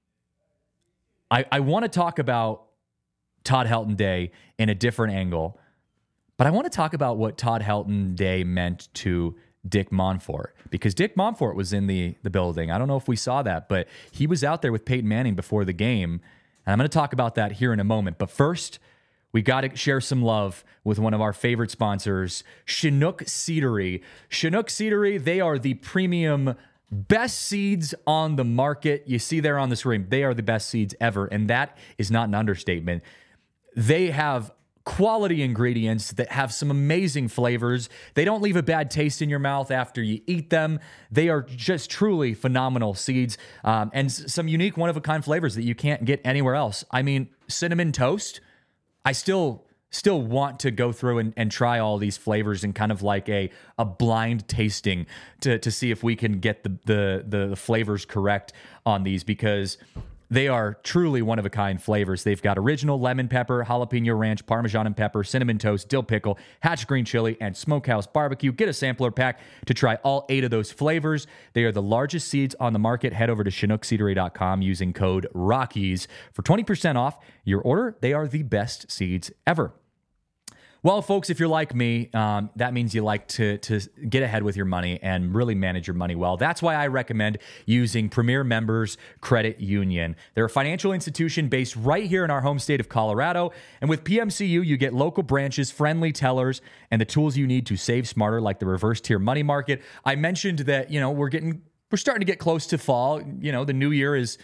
I, I want to talk about Todd Helton Day in a different angle, but I want to talk about what Todd Helton Day meant to Dick Monfort, because Dick Monfort was in the, the building. I don't know if we saw that, but he was out there with Peyton Manning before the game, and I'm going to talk about that here in a moment. But first, we got to share some love with one of our favorite sponsors, Chinook Seedery. Chinook Seedery, they are the premium best seeds on the market. You see there on the screen, they are the best seeds ever, and that is not an understatement. They have quality ingredients that have some amazing flavors. They don't leave a bad taste in your mouth after you eat them. They are just truly phenomenal seeds, um, and s- some unique one-of-a-kind flavors that you can't get anywhere else. I mean, cinnamon toast, I still still want to go through and, and try all these flavors and kind of like a a blind tasting to to see if we can get the the the, the flavors correct on these, because they are truly one-of-a-kind flavors. They've got original lemon pepper, jalapeno ranch, Parmesan and pepper, cinnamon toast, dill pickle, hatch green chili, and smokehouse barbecue. Get a sampler pack to try all eight of those flavors. They are the largest seeds on the market. Head over to chinook seedery dot com using code ROCKIES for twenty percent off your order. They are the best seeds ever. Well, folks, if you're like me, um, that means you like to, to get ahead with your money and really manage your money well. That's why I recommend using Premier Members Credit Union. They're a financial institution based right here in our home state of Colorado. And with P M C U, you get local branches, friendly tellers, and the tools you need to save smarter, like the reverse tier money market. I mentioned that, you know, we're getting, we're starting to get close to fall. You know, the new year is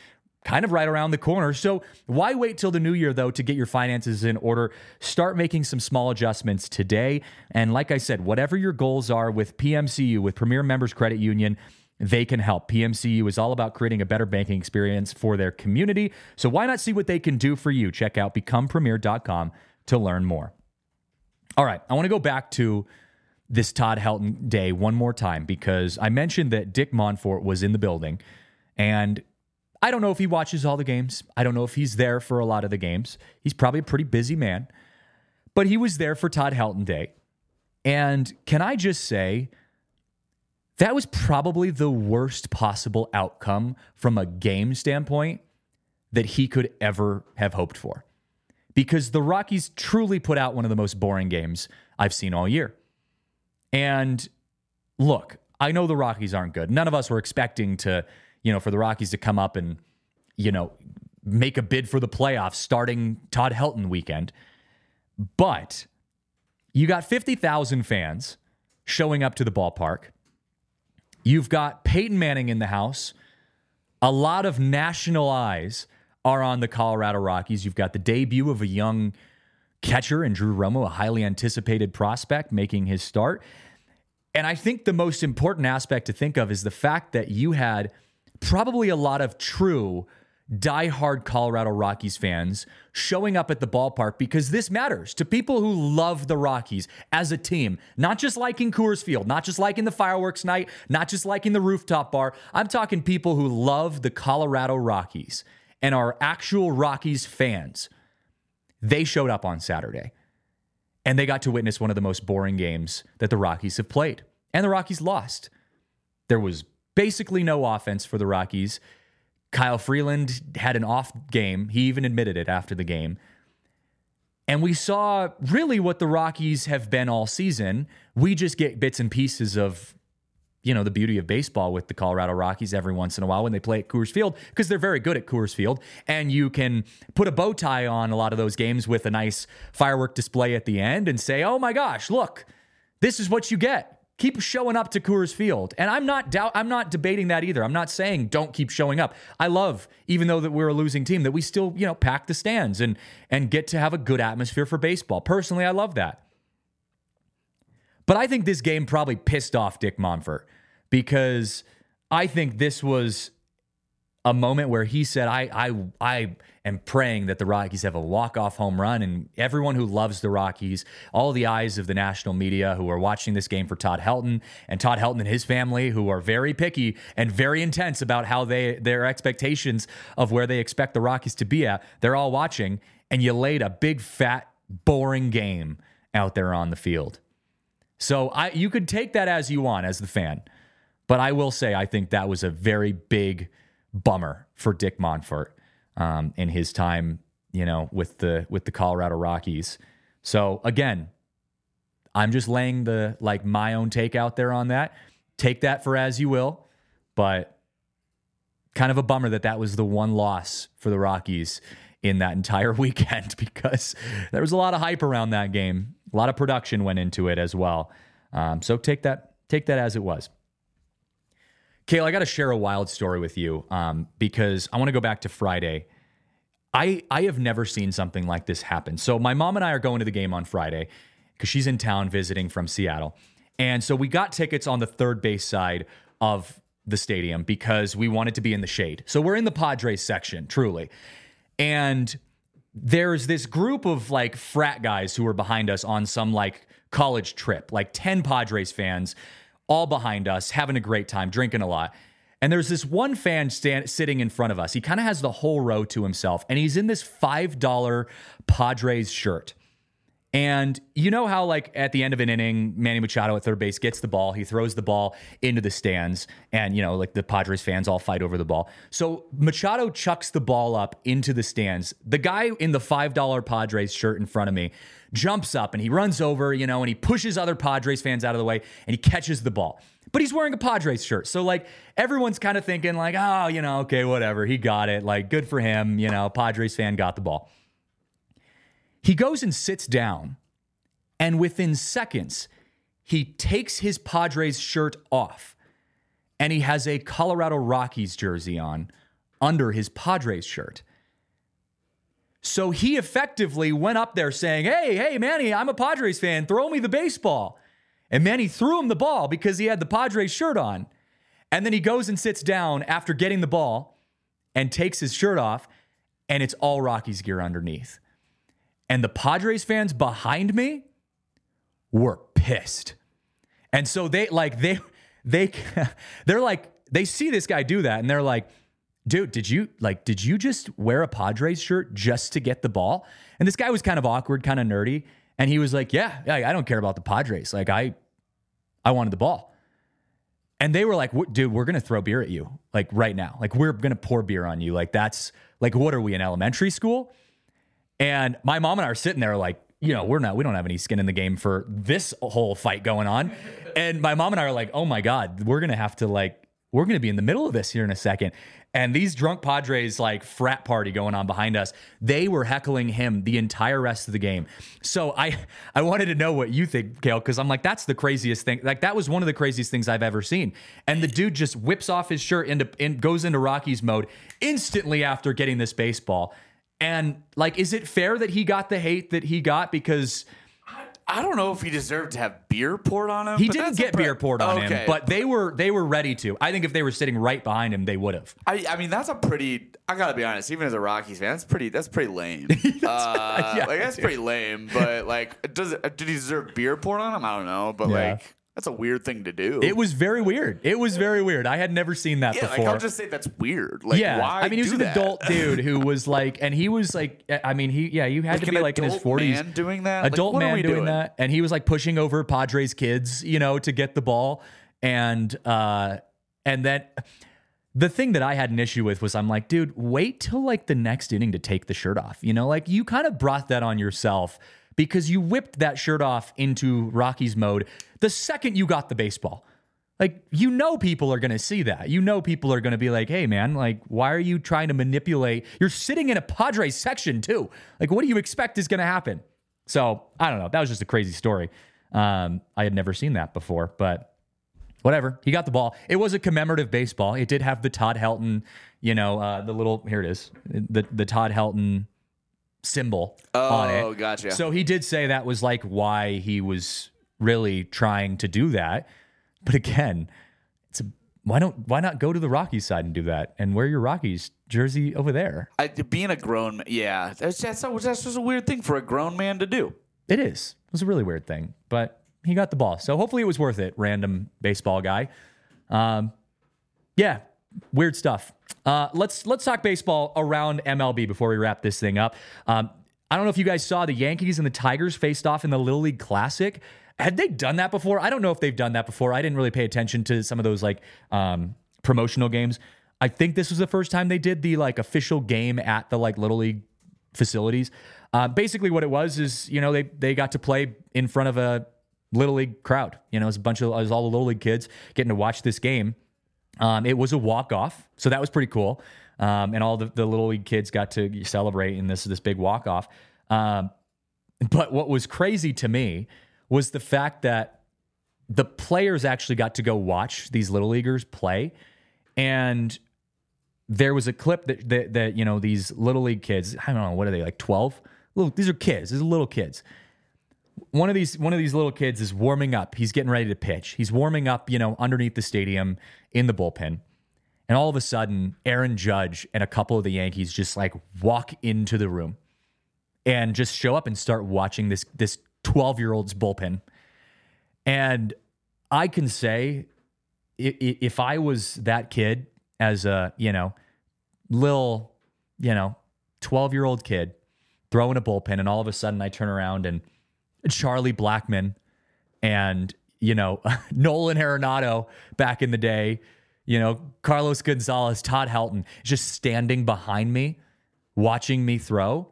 kind of right around the corner. So why wait till the new year, though, to get your finances in order? Start making some small adjustments today. And like I said, whatever your goals are with P M C U, with Premier Members Credit Union, they can help. P M C U is all about creating a better banking experience for their community. So why not see what they can do for you? Check out become premier dot com to learn more. All right, I want to go back to this Todd Helton day one more time because I mentioned that Dick Monfort was in the building, and I don't know if he watches all the games. I don't know if he's there for a lot of the games. He's probably a pretty busy man, but he was there for Todd Helton Day. And can I just say, that was probably the worst possible outcome from a game standpoint that he could ever have hoped for. Because the Rockies truly put out one of the most boring games I've seen all year. And look, I know the Rockies aren't good. None of us were expecting to, you know, for the Rockies to come up and, you know, make a bid for the playoffs starting Todd Helton weekend. But you got fifty thousand fans showing up to the ballpark. You've got Peyton Manning in the house. A lot of national eyes are on the Colorado Rockies. You've got the debut of a young catcher in Drew Romo, a highly anticipated prospect making his start. And I think the most important aspect to think of is the fact that you had probably a lot of true diehard Colorado Rockies fans showing up at the ballpark because this matters to people who love the Rockies as a team, not just liking Coors Field, not just liking the fireworks night, not just liking the rooftop bar. I'm talking people who love the Colorado Rockies and are actual Rockies fans. They showed up on Saturday and they got to witness one of the most boring games that the Rockies have played. And the Rockies lost. There was basically no offense for the Rockies. Kyle Freeland had an off game. He even admitted it after the game. And we saw really what the Rockies have been all season. We just get bits and pieces of, you know, the beauty of baseball with the Colorado Rockies every once in a while when they play at Coors Field, because they're very good at Coors Field. And you can put a bow tie on a lot of those games with a nice firework display at the end and say, oh my gosh, look, this is what you get. Keep showing up to Coors Field. And I'm not doubt I'm not debating that either. I'm not saying don't keep showing up. I love, even though that we're a losing team, that we still, you know, pack the stands and and get to have a good atmosphere for baseball. Personally, I love that. But I think this game probably pissed off Dick Monfort because I think this was a moment where he said, I I I am praying that the Rockies have a walk-off home run, and everyone who loves the Rockies, all the eyes of the national media who are watching this game for Todd Helton, and Todd Helton and his family who are very picky and very intense about how they their expectations of where they expect the Rockies to be at, they're all watching, and you laid a big, fat, boring game out there on the field. So I you could take that as you want as the fan, but I will say I think that was a very big bummer for Dick Monfort um, in his time, you know, with the with the Colorado Rockies. So again, I'm just laying the like my own take out there on that. Take that for as you will, but kind of a bummer that that was the one loss for the Rockies in that entire weekend because there was a lot of hype around that game. A lot of production went into it as well. Um, so take that take that as it was. Kale, I got to share a wild story with you um, because I want to go back to Friday. I I have never seen something like this happen. So my mom and I are going to the game on Friday because she's in town visiting from Seattle. And so we got tickets on the third base side of the stadium because we wanted to be in the shade. So we're in the Padres section, truly. And there's this group of like frat guys who are behind us on some like college trip, like ten Padres fans, all behind us, having a great time, drinking a lot. And there's this one fan stand, sitting in front of us. He kind of has the whole row to himself, and he's in this five dollar Padres shirt. And you know how, like, at the end of an inning, Manny Machado at third base gets the ball. He throws the ball into the stands, and, you know, like, the Padres fans all fight over the ball. So Machado chucks the ball up into the stands. The guy in the five dollar Padres shirt in front of me jumps up, and he runs over, you know, and he pushes other Padres fans out of the way, and he catches the ball. But he's wearing a Padres shirt. So, like, everyone's kind of thinking, like, oh, you know, okay, whatever. He got it. Like, good for him. You know, Padres fan got the ball. He goes and sits down, and within seconds, he takes his Padres shirt off, and he has a Colorado Rockies jersey on under his Padres shirt. So he effectively went up there saying, hey, hey, Manny, I'm a Padres fan. Throw me the baseball. And Manny threw him the ball because he had the Padres shirt on. And then he goes and sits down after getting the ball and takes his shirt off, and it's all Rockies gear underneath. And the Padres fans behind me were pissed. And so they like they they they're like they see this guy do that and they're like, dude, did you like did you just wear a Padres shirt just to get the ball? And this guy was kind of awkward, kind of nerdy, and he was like, yeah, yeah, I don't care about the Padres. Like I I wanted the ball. And they were like, dude, we're going to throw beer at you like right now. Like we're going to pour beer on you. Like that's like, what are we in elementary school? And my mom and I are sitting there like, you know, we're not, we don't have any skin in the game for this whole fight going on. And my mom and I are like, oh my God, we're going to have to like, we're going to be in the middle of this here in a second. And these drunk Padres like frat party going on behind us, they were heckling him the entire rest of the game. So I, I wanted to know what you think, Kale, because I'm like, that's the craziest thing. Like that was one of the craziest things I've ever seen. And the dude just whips off his shirt into, and goes into Rockies mode instantly after getting this baseball. And like, is it fair that he got the hate that he got? Because I don't know if he deserved to have beer poured on him. he but didn't that's get a pre- beer poured on okay. him, but they were they were ready to. I think if they were sitting right behind him, they would have. I, I mean, that's a pretty. I gotta be honest. Even as a Rockies fan, that's pretty. That's pretty lame. uh, yeah, like that's dude. pretty lame. But like, does it? Did he deserve beer poured on him? I don't know. But Yeah. like, that's a weird thing to do. It was very weird. It was very weird. I had never seen that yeah, before. like I'll just say that's weird. Like, yeah, why? I mean, he was do an that? adult dude who was like, and he was like, I mean, he, yeah, you had Like to an be like in his adult forties, man doing that. Like, adult what are man we doing, doing? that, and he was like pushing over Padres kids, you know, to get the ball, and uh, and then the thing that I had an issue with was I'm like, dude, wait till like the next inning to take the shirt off, you know, like you kind of brought that on yourself because you whipped that shirt off into Rockies mode the second you got the baseball. Like, you know, people are going to see that. You know, people are going to be like, hey, man, like, why are you trying to manipulate? You're sitting in a Padres section, too. Like, what do you expect is going to happen? So, I don't know. That was just a crazy story. Um, I had never seen that before, but whatever. He got the ball. It was a commemorative baseball. It did have the Todd Helton, you know, uh, the little, here it is, the, the Todd Helton symbol on it. Oh, gotcha. So he did say that was like why he was really trying to do that. But again, it's a, why don't why not go to the Rockies side and do that and wear your Rockies jersey over there? I, being a grown man, yeah, that's that's, that's just a weird thing for a grown man to do. It is. It was a really weird thing, but he got the ball, so hopefully it was worth it. Random baseball guy, um, yeah, weird stuff. Uh, let's let's talk baseball around M L B before we wrap this thing up. Um, I don't know if you guys saw the Yankees and the Tigers faced off in the Little League Classic. Had they done that before? I don't know if they've done that before. I didn't really pay attention to some of those like um, promotional games. I think this was the first time they did the like official game at the like Little League facilities. Uh, basically, what it was is you know they they got to play in front of a Little League crowd. You know, it was a bunch of it was all the Little League kids getting to watch this game. Um, it was a walk off, so that was pretty cool. Um, and all the, the Little League kids got to celebrate in this this big walk off. Um, but what was crazy to me was the fact that the players actually got to go watch these Little Leaguers play. And there was a clip that, that, that you know, these Little League kids, I don't know, what are they, like twelve? Little, these are kids. These are little kids. One of these one of these little kids is warming up. He's getting ready to pitch. He's warming up, you know, underneath the stadium in the bullpen. And all of a sudden, Aaron Judge and a couple of the Yankees just like walk into the room and just show up and start watching this this twelve-year-old's bullpen. And I can say, if I was that kid as a, you know, little, you know, twelve-year-old kid throwing a bullpen, and all of a sudden I turn around and Charlie Blackmon and, you know, Nolan Arenado back in the day, you know, Carlos Gonzalez, Todd Helton, just standing behind me, watching me throw,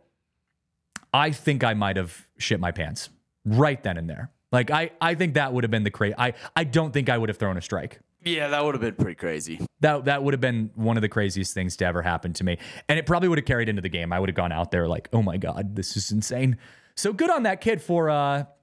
I think I might have shit my pants right then and there. Like, I, I think that would have been the crazy. I, I don't think I would have thrown a strike. Yeah, that would have been pretty crazy. That that would have been one of the craziest things to ever happen to me. And it probably would have carried into the game. I would have gone out there like, oh my God, this is insane. So good on that kid for uh,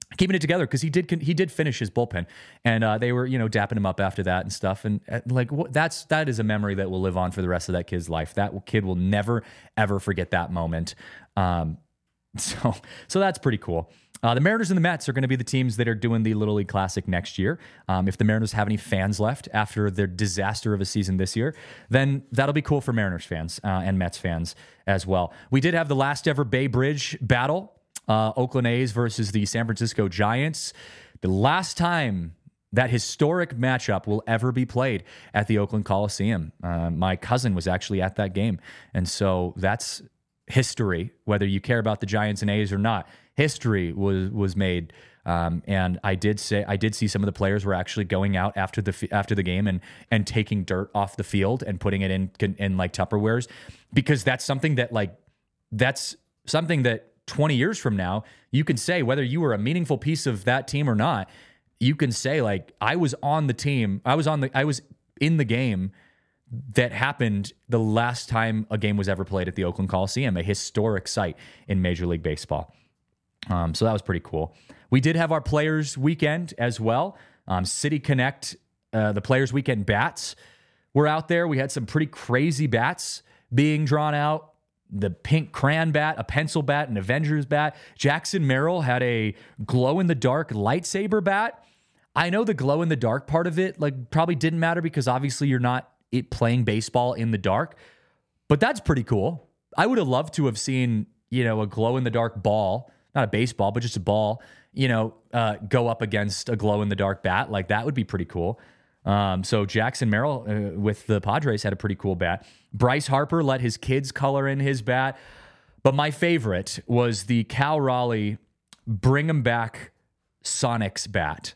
keeping it together because he did he did finish his bullpen, and uh, they were you know dapping him up after that and stuff, and uh, like wh- that's that is a memory that will live on for the rest of that kid's life. That kid will never ever forget that moment. Um, so so that's pretty cool. Uh, the Mariners and the Mets are going to be the teams that are doing the Little League Classic next year. Um, if the Mariners have any fans left after their disaster of a season this year, then that'll be cool for Mariners fans uh, and Mets fans as well. We did have the last ever Bay Bridge battle. Uh, Oakland A's versus the San Francisco Giants. The last time that historic matchup will ever be played at the Oakland Coliseum. Uh, my cousin was actually at that game. And so that's history, whether you care about the Giants and A's or not. History was was made. Um, and I did say I did see some of the players were actually going out after the after the game and and taking dirt off the field and putting it in in like Tupperwares, because that's something that like that's something that twenty years from now, you can say, whether you were a meaningful piece of that team or not, you can say like, I was on the team. I was on the, I was in the game that happened the last time a game was ever played at the Oakland Coliseum, a historic site in Major League Baseball. Um, so that was pretty cool. We did have our Players Weekend as well. Um, City Connect, uh, the Players Weekend bats were out there. We had some pretty crazy bats being drawn out. The pink crayon bat, a pencil bat, an Avengers bat. Jackson Merrill had a glow-in-the-dark lightsaber bat. I know the glow-in-the-dark part of it like probably didn't matter because obviously you're not it playing baseball in the dark, but that's pretty cool. I would have loved to have seen, you know, a glow-in-the-dark ball, not a baseball, but just a ball, you know, uh, go up against a glow-in-the-dark bat. Like, that would be pretty cool. Um, so Jackson Merrill uh, with the Padres had a pretty cool bat. Bryce Harper let his kids color in his bat. But my favorite was the Cal Raleigh Bring 'em Back Sonics bat.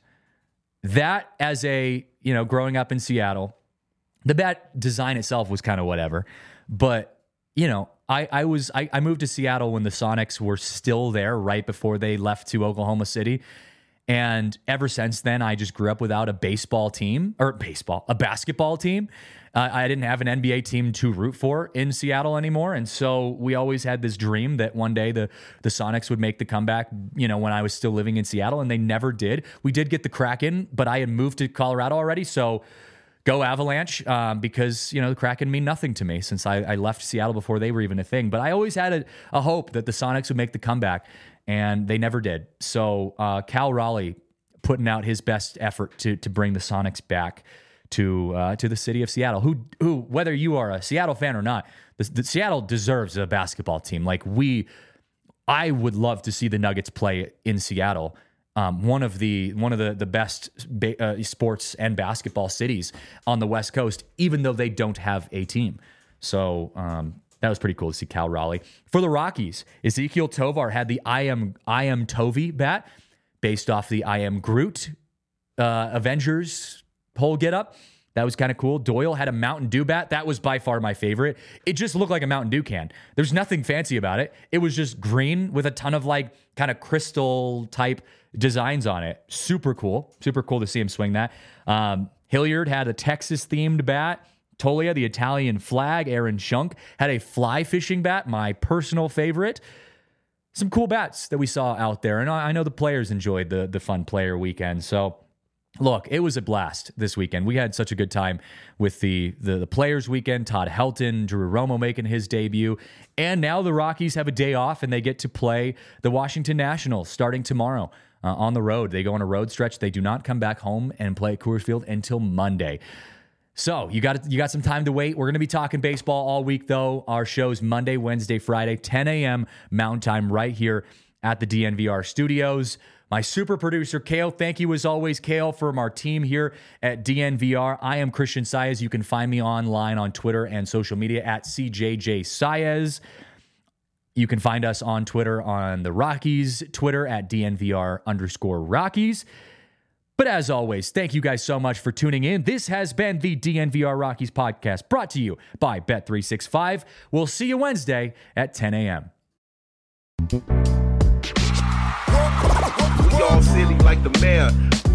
That, as a, you know, growing up in Seattle, the bat design itself was kind of whatever. But, you know, I, I was I, I moved to Seattle when the Sonics were still there right before they left to Oklahoma City. And ever since then, I just grew up without a baseball team or baseball, a basketball team. Uh, I didn't have an N B A team to root for in Seattle anymore. And so we always had this dream that one day the, the Sonics would make the comeback, you know, when I was still living in Seattle, and they never did. We did get the Kraken, but I had moved to Colorado already. So go Avalanche, um, because, you know, the Kraken mean nothing to me since I, I left Seattle before they were even a thing. But I always had a, a hope that the Sonics would make the comeback, and they never did. So uh, Cal Raleigh putting out his best effort to to bring the Sonics back to uh, to the city of Seattle. Who who whether you are a Seattle fan or not, the, the Seattle deserves a basketball team. Like we, I would love to see the Nuggets play in Seattle. Um, one of the one of the the best ba- uh, sports and basketball cities on the West Coast, even though they don't have a team. So um, that was pretty cool to see Cal Raleigh. For the Rockies, Ezekiel Tovar had the I am I am Tovi bat, based off the I am Groot uh, Avengers whole getup. That was kind of cool. Doyle had a Mountain Dew bat. That was by far my favorite. It just looked like a Mountain Dew can. There's nothing fancy about it. It was just green with a ton of like kind of crystal type designs on it. Super cool. Super cool to see him swing that. Um, Hilliard had a Texas themed bat. Tolia, the Italian flag. Aaron Schunk had a fly fishing bat, my personal favorite. Some cool bats that we saw out there. And I know the players enjoyed the, the fun player weekend. So look, it was a blast this weekend. We had such a good time with the, the, the Players Weekend. Todd Helton, Drew Romo making his debut. And now the Rockies have a day off and they get to play the Washington Nationals starting tomorrow uh, on the road. They go on a road stretch. They do not come back home and play at Coors Field until Monday. So you got you got some time to wait. We're going to be talking baseball all week, though. Our show's Monday, Wednesday, Friday, ten a.m. Mountain Time right here at the D N V R studios. My super producer, Kale, thank you as always, Kale, from our team here at D N V R. I am Christian Saez. You can find me online on Twitter and social media at C J J Saez. You can find us on Twitter on the Rockies, Twitter at D N V R underscore Rockies. But as always, thank you guys so much for tuning in. This has been the D N V R Rockies podcast brought to you by Bet three sixty-five. We'll see you Wednesday at ten a.m. We all silly like the mayor.